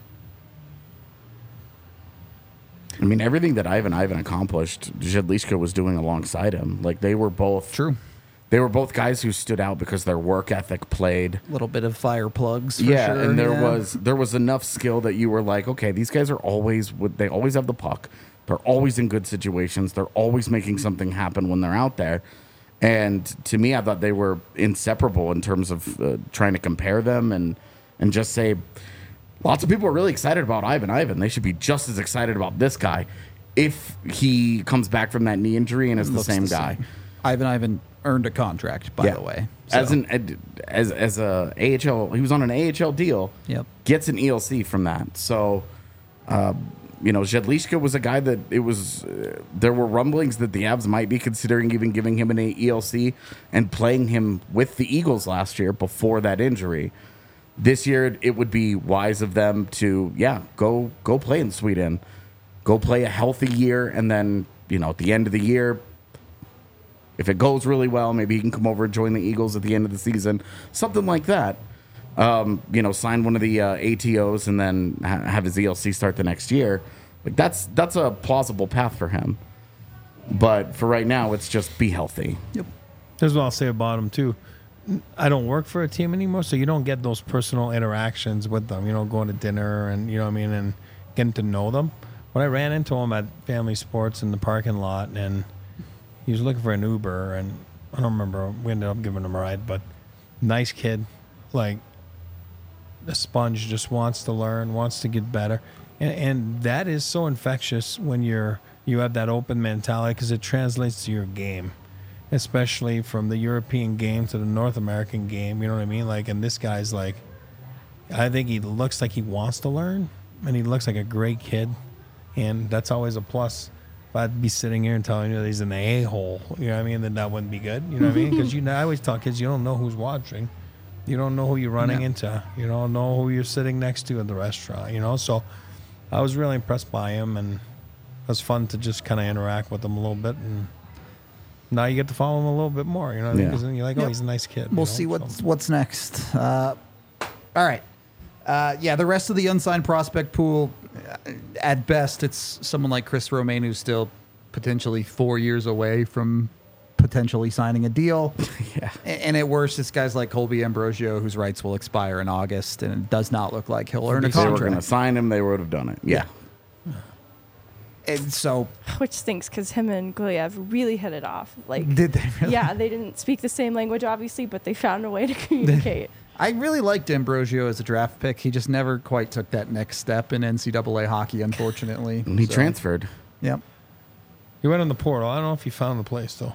I mean, everything that Ivan accomplished, Jedlička was doing alongside him. Like, they were both... True. They were both guys who stood out because their work ethic played. A little bit of fire plugs, for sure. And there was enough skill that you were like, okay, these guys are they always have the puck. They're always in good situations. They're always making something happen when they're out there. And to me, I thought they were inseparable in terms of trying to compare them and just say... Lots of people are really excited about Ivan. They should be just as excited about this guy if he comes back from that knee injury and is the Looks same guy. Ivan earned a contract, by the way. So, As a AHL, he was on an AHL deal. Yep. Gets an ELC from that. So, Jedlishka was a guy that it was. There were rumblings that the Avs might be considering even giving him an ELC and playing him with the Eagles last year before that injury. This year, it would be wise of them to, go play in Sweden, go play a healthy year, and then at the end of the year, if it goes really well, maybe he can come over and join the Eagles at the end of the season, something like that. Sign one of the ATOs and then have his ELC start the next year. Like that's a plausible path for him. But for right now, it's just be healthy. Yep. Here's what I'll say about him too. I don't work for a team anymore, so you don't get those personal interactions with them. Going to dinner and and getting to know them. When I ran into him at Family Sports in the parking lot, and he was looking for an Uber, and I don't remember. We ended up giving him a ride, but nice kid, like a sponge, just wants to learn, wants to get better, and that is so infectious when you have that open mentality because it translates to your game. Especially from the European game to the North American game, you know what I mean? Like, and this guy's like, I think he looks like he wants to learn, and he looks like a great kid, and that's always a plus. If I'd be sitting here and telling you that he's an a-hole, you know what I mean, then that wouldn't be good, you know what I mean? Because I always tell kids, you don't know who's watching, you don't know who you're running into, you don't know who you're sitting next to at the restaurant, So I was really impressed by him, and it was fun to just kind of interact with him a little bit, and now you get to follow him a little bit more, you know what I mean? Because then you're like, he's a nice kid. We'll see what's next. All right. The rest of the unsigned prospect pool, at best, it's someone like Chris Romain who's still potentially 4 years away from potentially signing a deal. Yeah. And at worst, this guy's like Colby Ambrosio, whose rights will expire in August, and it does not look like he'll earn a If they were contract. going to sign him, they would have done it. Yeah. And so, Which stinks because him and Gulyev really hit it off. Like, did they really? yeah, they didn't speak the same language, obviously, but they found a way to communicate. I really liked Ambrosio as a draft pick. He just never quite took that next step in NCAA hockey, unfortunately. And he transferred. Yep. He went on the portal. I don't know if he found the place, though.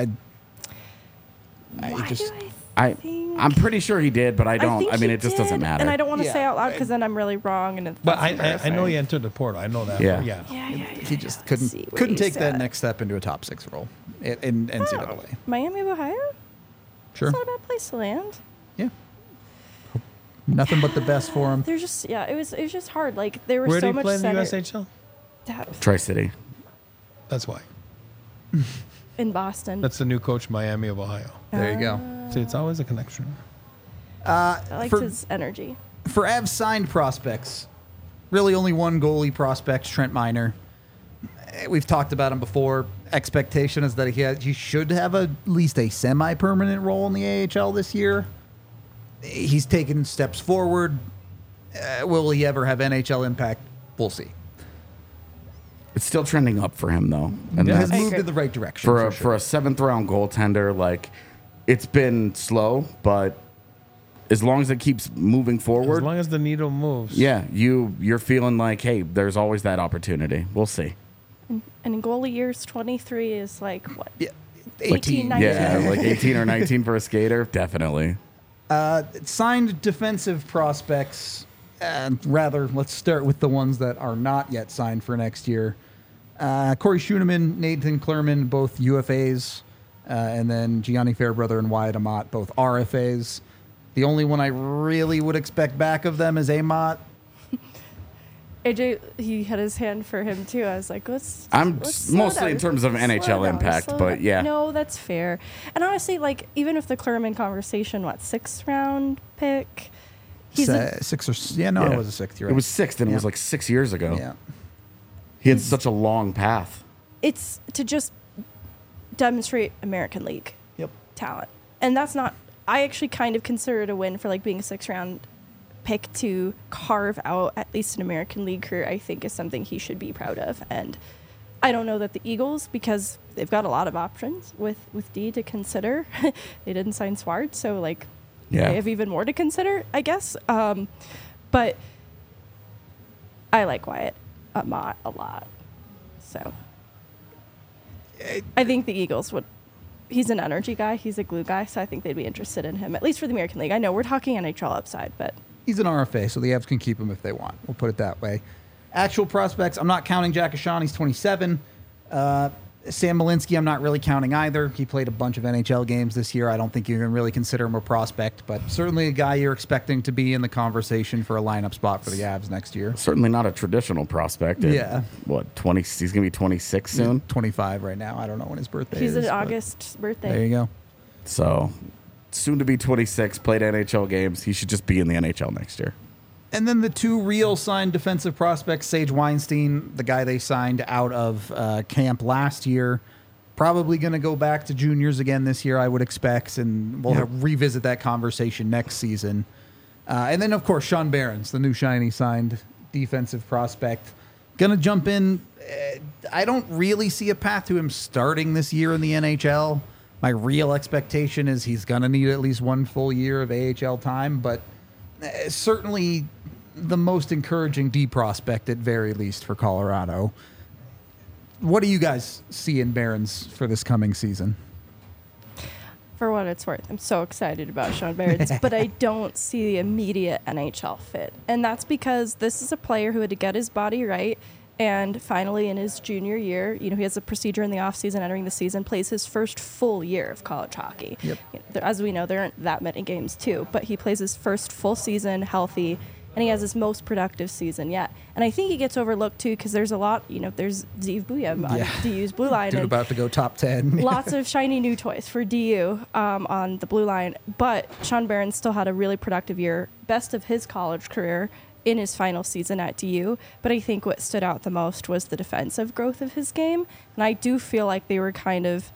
I'm pretty sure he did, but I don't. think I mean, he it just did, doesn't matter. And I don't want to Yeah. say out loud because then I'm really wrong. And But I know he entered the portal. I know that. Yeah. Yeah. He just Let's couldn't see where he's take that at. next step into a top 6 role in NCAA. Miami of Ohio? Sure. That's not a bad place to land. Yeah. Nothing but the best for him. They're just it was just hard. Like there was Where so did he much play in the center- USHL? Tri-City. That's why. in Boston. That's the new coach, Miami of Ohio. There you go. See, it's always a connection. I liked for- his energy. For Avs signed prospects, really only one goalie prospect, Trent Miner. We've talked about him before. Expectation is that he should have at least a semi-permanent role in the AHL this year. He's taken steps forward. Will he ever have NHL impact? We'll see. It's still trending up for him, though. And It has that's- moved in the right direction. for a 7th round goaltender, like it's been slow, but as long as it keeps moving forward, As long as the needle moves. yeah, you're feeling like, hey, there's always that opportunity. We'll see. And in goalie years, 23 is like what? Yeah, 18, 19. Yeah, like 18 or 19 for a skater, definitely. Signed defensive prospects. Rather, let's start with the ones that are not yet signed for next year. Corey Schoenemann, Nathan Klerman, both UFAs, and then Gianni Fairbrother and Wyatt Amat, both RFAs. The only one I really would expect back of them is Amat. AJ, he had his hand for him too. I was like, let's. I'm let's slow mostly down. in terms of Slow NHL down, impact, slow but down. yeah. No, that's fair. And honestly, like even if the Klerman conversation, 6th round pick? He's a, Six or it was a 6th. You're right. It was 6th, and it was Yeah. like 6 years ago. Yeah. He had such a long path. it's to just demonstrate American League Yep. talent, and that's not. I actually kind of consider it a win for like being a 6th round pick to carve out at least an American League career. I think is something he should be proud of, and I don't know that the Eagles, because they've got a lot of options with D to consider. They didn't sign Swart, so like Yeah. they have even more to consider, I guess. But I like Wyatt Mott a lot. So I think the Eagles would. He's an energy guy. He's a glue guy. So I think they'd be interested in him, at least for the American League. I know we're talking NHL upside, but He's an RFA, so the Avs can keep him if they want. We'll put it that way. Actual prospects, I'm not counting Jack Ashawn. He's 27. Sam Malinsky, I'm not really counting either. He played a bunch of NHL games this year. I don't think you can really consider him a prospect, but certainly a guy you're expecting to be in the conversation for a lineup spot for the Avs next year. Certainly not a traditional prospect. Yeah. What, 20? He's going to be 26 soon? 25 right now. I don't know when his birthday he's is. an but August birthday. There you go. So, soon to be 26, played NHL games. He should just be in the NHL next year. And then the two real signed defensive prospects, Sage Weinstein, the guy they signed out of camp last year, probably going to go back to juniors again this year, I would expect, and we'll revisit that conversation next season. And then, of course, Sean Behrens, the new shiny signed defensive prospect. Going to jump in. I don't really see a path to him starting this year in the NHL. My real expectation is he's going to need at least one full year of AHL time, but certainly the most encouraging D prospect at very least for Colorado. What do you guys see in Behrens for this coming season? For what it's worth, I'm so excited about Sean Behrens, but I don't see the immediate NHL fit. And that's because this is a player who had to get his body right. And finally, in his junior year, he has a procedure in the offseason, entering the season, plays his first full year of college hockey. Yep. As we know, there aren't that many games, too. But he plays his first full season healthy, and he has his most productive season yet. And I think he gets overlooked, too, because there's a lot, there's Zeev Buyem on DU's blue line. Dude about to go top 10. Lots of shiny new toys for DU on the blue line. But Sean Behrens still had a really productive year, best of his college career, in his final season at DU. But I think what stood out the most was the defensive growth of his game. And I do feel like they were kind of,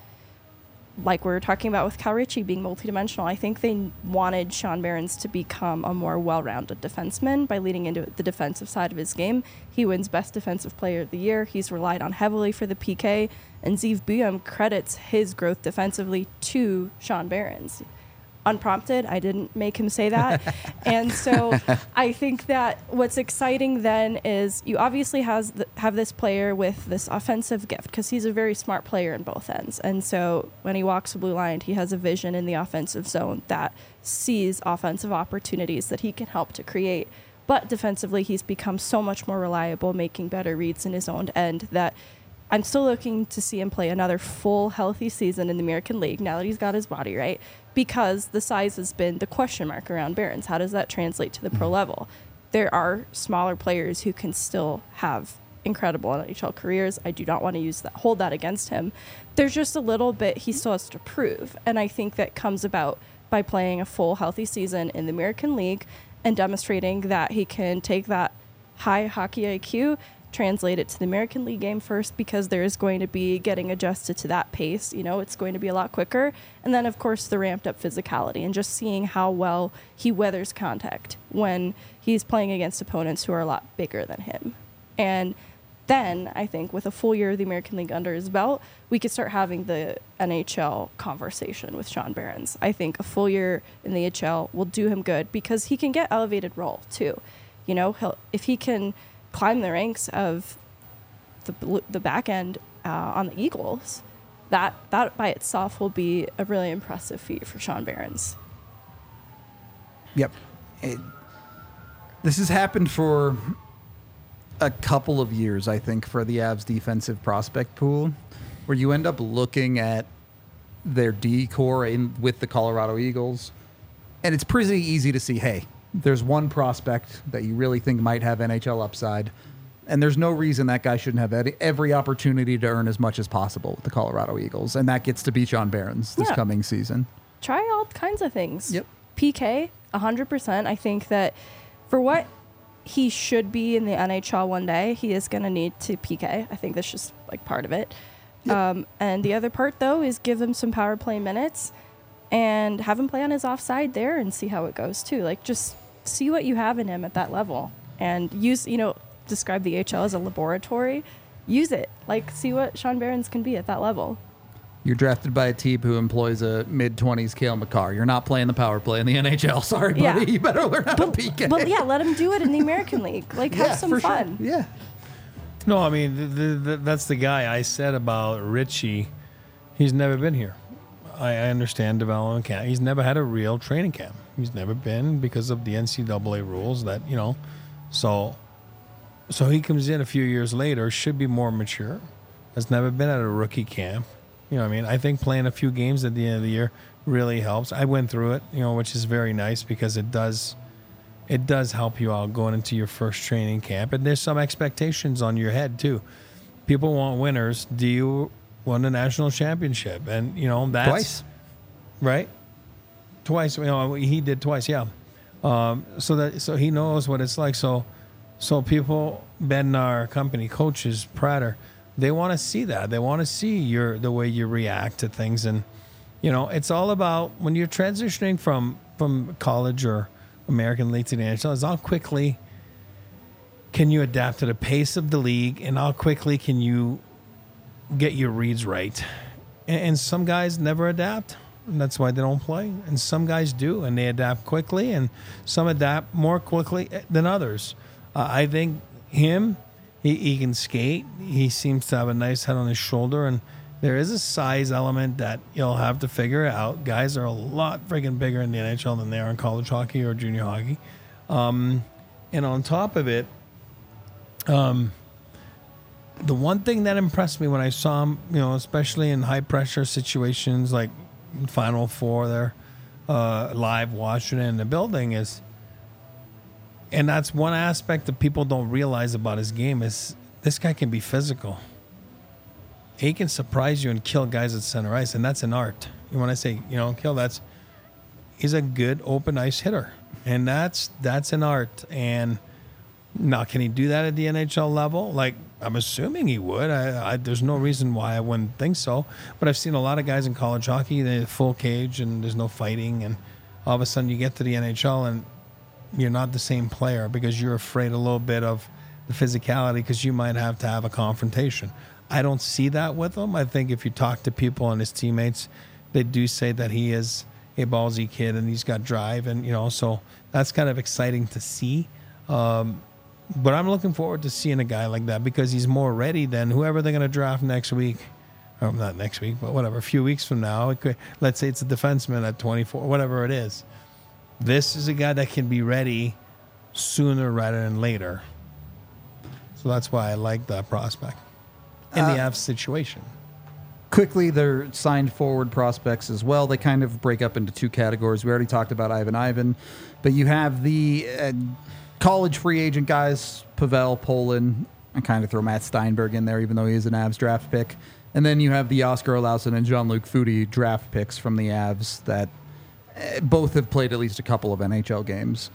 like we were talking about with Cal Ritchie being multidimensional, I think they wanted Sean Behrens to become a more well-rounded defenseman by leading into the defensive side of his game. He wins Best Defensive Player of the Year. He's relied on heavily for the PK. And Zeev Buyem credits his growth defensively to Sean Behrens. Unprompted, I didn't make him say that. And so I think that what's exciting then is you obviously have this player with this offensive gift because he's a very smart player in both ends. And so when he walks the blue line, he has a vision in the offensive zone that sees offensive opportunities that he can help to create. But defensively, he's become so much more reliable, making better reads in his own end that I'm still looking to see him play another full, healthy season in the American League now that he's got his body right, because the size has been the question mark around Behrens. How does that translate to the pro level? There are smaller players who can still have incredible NHL careers. I do not want to hold that against him. There's just a little bit he still has to prove, and I think that comes about by playing a full, healthy season in the American League and demonstrating that he can take that high hockey IQ, translate it to the American League game first, because there is going to be getting adjusted to that pace. It's going to be a lot quicker. And then, of course, the ramped up physicality and just seeing how well he weathers contact when he's playing against opponents who are a lot bigger than him. And then I think with a full year of the American League under his belt, we could start having the NHL conversation with Sean Behrens. I think a full year in the HL will do him good because he can get elevated role too. If he can climb the ranks of the back end on the Eagles, that by itself will be a really impressive feat for Sean Behrens. Yep. This has happened for a couple of years, I think, for the Avs defensive prospect pool, where you end up looking at their D core with the Colorado Eagles, and it's pretty easy to see, hey, there's one prospect that you really think might have NHL upside, and there's no reason that guy shouldn't have every opportunity to earn as much as possible with the Colorado Eagles, and that gets to be Sean Behrens this coming season. Try all kinds of things. Yep. PK, 100%. I think that for what he should be in the NHL one day, he is going to need to PK. I think that's just part of it. Yep. And the other part, though, is give him some power play minutes and have him play on his offside there and see how it goes, too. Just see what you have in him at that level and describe the HL as a laboratory. Use it. See what Sean Behrens can be at that level. You're drafted by a team who employs a mid-20s Cale Makar. You're not playing the power play in the NHL. Sorry, buddy. Yeah. You better learn how to PK. But yeah, let him do it in the American League. Like, have some for fun. Sure. Yeah. No, I mean, that's the guy I said about Richie. He's never been here. I understand development camp. He's never had a real training camp. He's never been because of the NCAA rules that, so he comes in a few years later, should be more mature. Has never been at a rookie camp. You know what I mean? I think playing a few games at the end of the year really helps. I went through it, which is very nice because it does help you out going into your first training camp. And there's some expectations on your head too. People want winners. Do you won the national championship? And that's Twice. Right? Twice. He did twice, yeah. So he knows what it's like. So people, Bednar company, coaches, Prater, they want to see that. They want to see the way you react to things. And, it's all about when you're transitioning from college or American League to the NHL, is how quickly can you adapt to the pace of the league and how quickly can you get your reads right. And some guys never adapt. And that's why they don't play. And some guys do, and they adapt quickly, and some adapt more quickly than others. I think him, he can skate. He seems to have a nice head on his shoulder, and there is a size element that you'll have to figure out. Guys are a lot freaking bigger in the NHL than they are in college hockey or junior hockey. And on top of it, the one thing that impressed me when I saw him, especially in high pressure situations like Final Four there, live watching it in the building is, and that's one aspect that people don't realize about his game is this guy can be physical. He can surprise you and kill guys at center ice, and that's an art. When I say, kill, he's a good open ice hitter, and that's an art. And now, can he do that at the NHL level? Like, I'm assuming he would. There's no reason why I wouldn't think so. But I've seen a lot of guys in college hockey, they're full cage and there's no fighting. And all of a sudden you get to the NHL and you're not the same player because you're afraid a little bit of the physicality because you might have to have a confrontation. I don't see that with him. I think if you talk to people and his teammates, they do say that he is a ballsy kid and he's got drive. And, so that's kind of exciting to see. But I'm looking forward to seeing a guy like that because he's more ready than whoever they're going to draft next week. Or not next week, but whatever, a few weeks from now. Let's say it's a defenseman at 24, whatever it is. This is a guy that can be ready sooner rather than later. So that's why I like that prospect in the Avs situation. Quickly, they're signed forward prospects as well. They kind of break up into two categories. We already talked about Ivan, but you have the college free agent guys, Pavel, Poland. I kind of throw Matt Steinberg in there, even though he is an Avs draft pick. And then you have the Oscar Olausson and Jean-Luc Foudy draft picks from the Avs that both have played at least a couple of NHL games.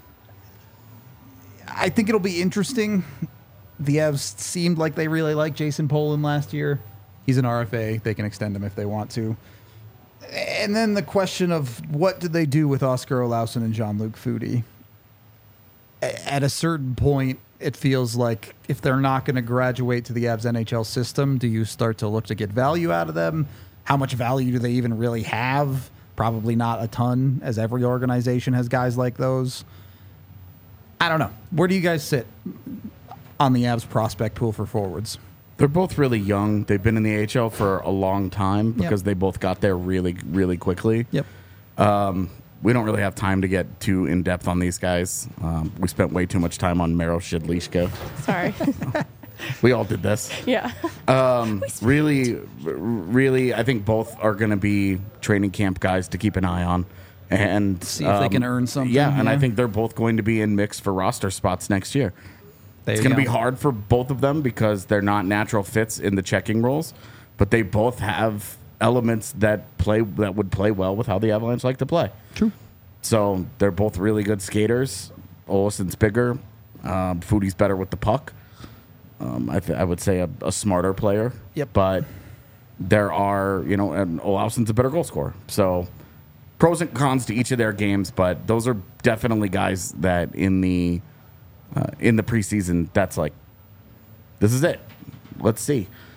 I think it'll be interesting. The Avs seemed like they really liked Jason Poland last year. He's an RFA. They can extend him if they want to. And then the question of what did they do with Oscar Olausson and Jean-Luc Foudy? At a certain point, it feels like if they're not going to graduate to the Avs NHL system, do you start to look to get value out of them? How much value do they even really have? Probably not a ton, as every organization has guys like those. I don't know. Where do you guys sit on the Avs prospect pool for forwards? They're both really young. They've been in the AHL for a long time because they both got there really, really quickly. Yep. We don't really have time to get too in-depth on these guys. We spent way too much time on Maro Shidlishka. Sorry. We all did this. Yeah. Really, I think both are going to be training camp guys to keep an eye on. And see if they can earn something. Yeah, and I think they're both going to be in mix for roster spots next year. It's going to be hard for both of them because they're not natural fits in the checking roles, but they both have elements that would play well with how the Avalanche like to play. True. So they're both really good skaters. Olsson's bigger. Foudy's better with the puck. I would say a smarter player. Yep. But there are, and Olausson's a better goal scorer. So pros and cons to each of their games, but those are definitely guys that in the preseason, that's like, this is it. Let's see.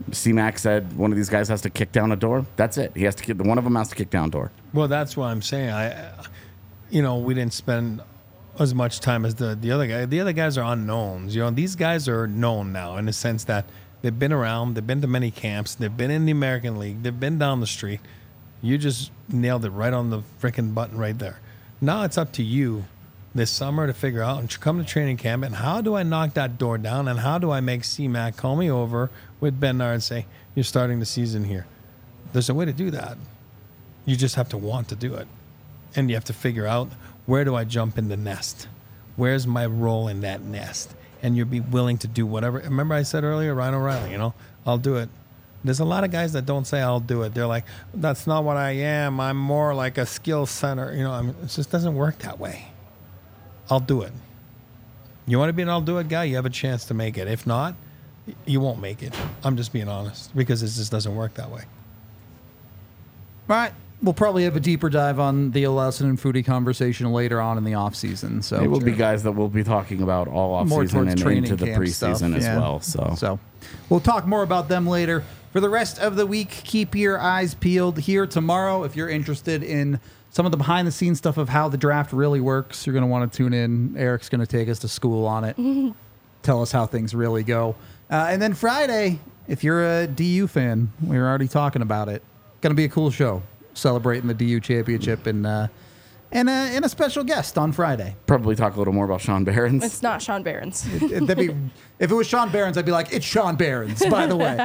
C-Mac said one of these guys has to kick down a door. That's it. He has to one of them has to kick down a door. Well, that's what I'm saying. We didn't spend as much time as the other guy. The other guys are unknowns. These guys are known now in the sense that they've been around, they've been to many camps, they've been in the American League, they've been down the street. You just nailed it right on the freaking button right there. Now it's up to you this summer to figure out and come to training camp and how do I knock that door down and how do I make C-Mac call me over with Bednar and say, you're starting the season here. There's a way to do that. You just have to want to do it. And you have to figure out, where do I jump in the nest? Where's my role in that nest? And you'll be willing to do whatever. Remember I said earlier, Ryan O'Reilly, I'll do it. There's a lot of guys that don't say I'll do it. They're like, that's not what I am. I'm more like a skill center. It just doesn't work that way. I'll do it. You want to be an I'll do it guy? You have a chance to make it. If not, you won't make it. I'm just being honest because it just doesn't work that way. All right. We'll probably have a deeper dive on the Olausen and Foudy conversation later on in the offseason. So it will be guys that we'll be talking about all offseason and into the preseason as well. So we'll talk more about them later. For the rest of the week, keep your eyes peeled here tomorrow. If you're interested in some of the behind-the-scenes stuff of how the draft really works, you're going to want to tune in. Eric's going to take us to school on it, tell us how things really go. And then Friday, if you're a DU fan, we were already talking about it. Going to be a cool show. Celebrating the DU championship and a special guest on Friday. Probably talk a little more about Sean Behrens. It's not Sean Behrens. If it was Sean Behrens, I'd be like, it's Sean Behrens, by the way.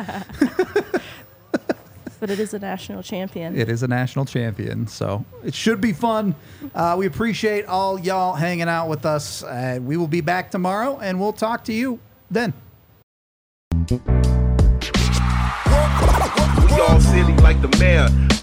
But it is a national champion. It is a national champion, so it should be fun. We appreciate all y'all hanging out with us. We will be back tomorrow, and we'll talk to you then. We all silly like the mayor.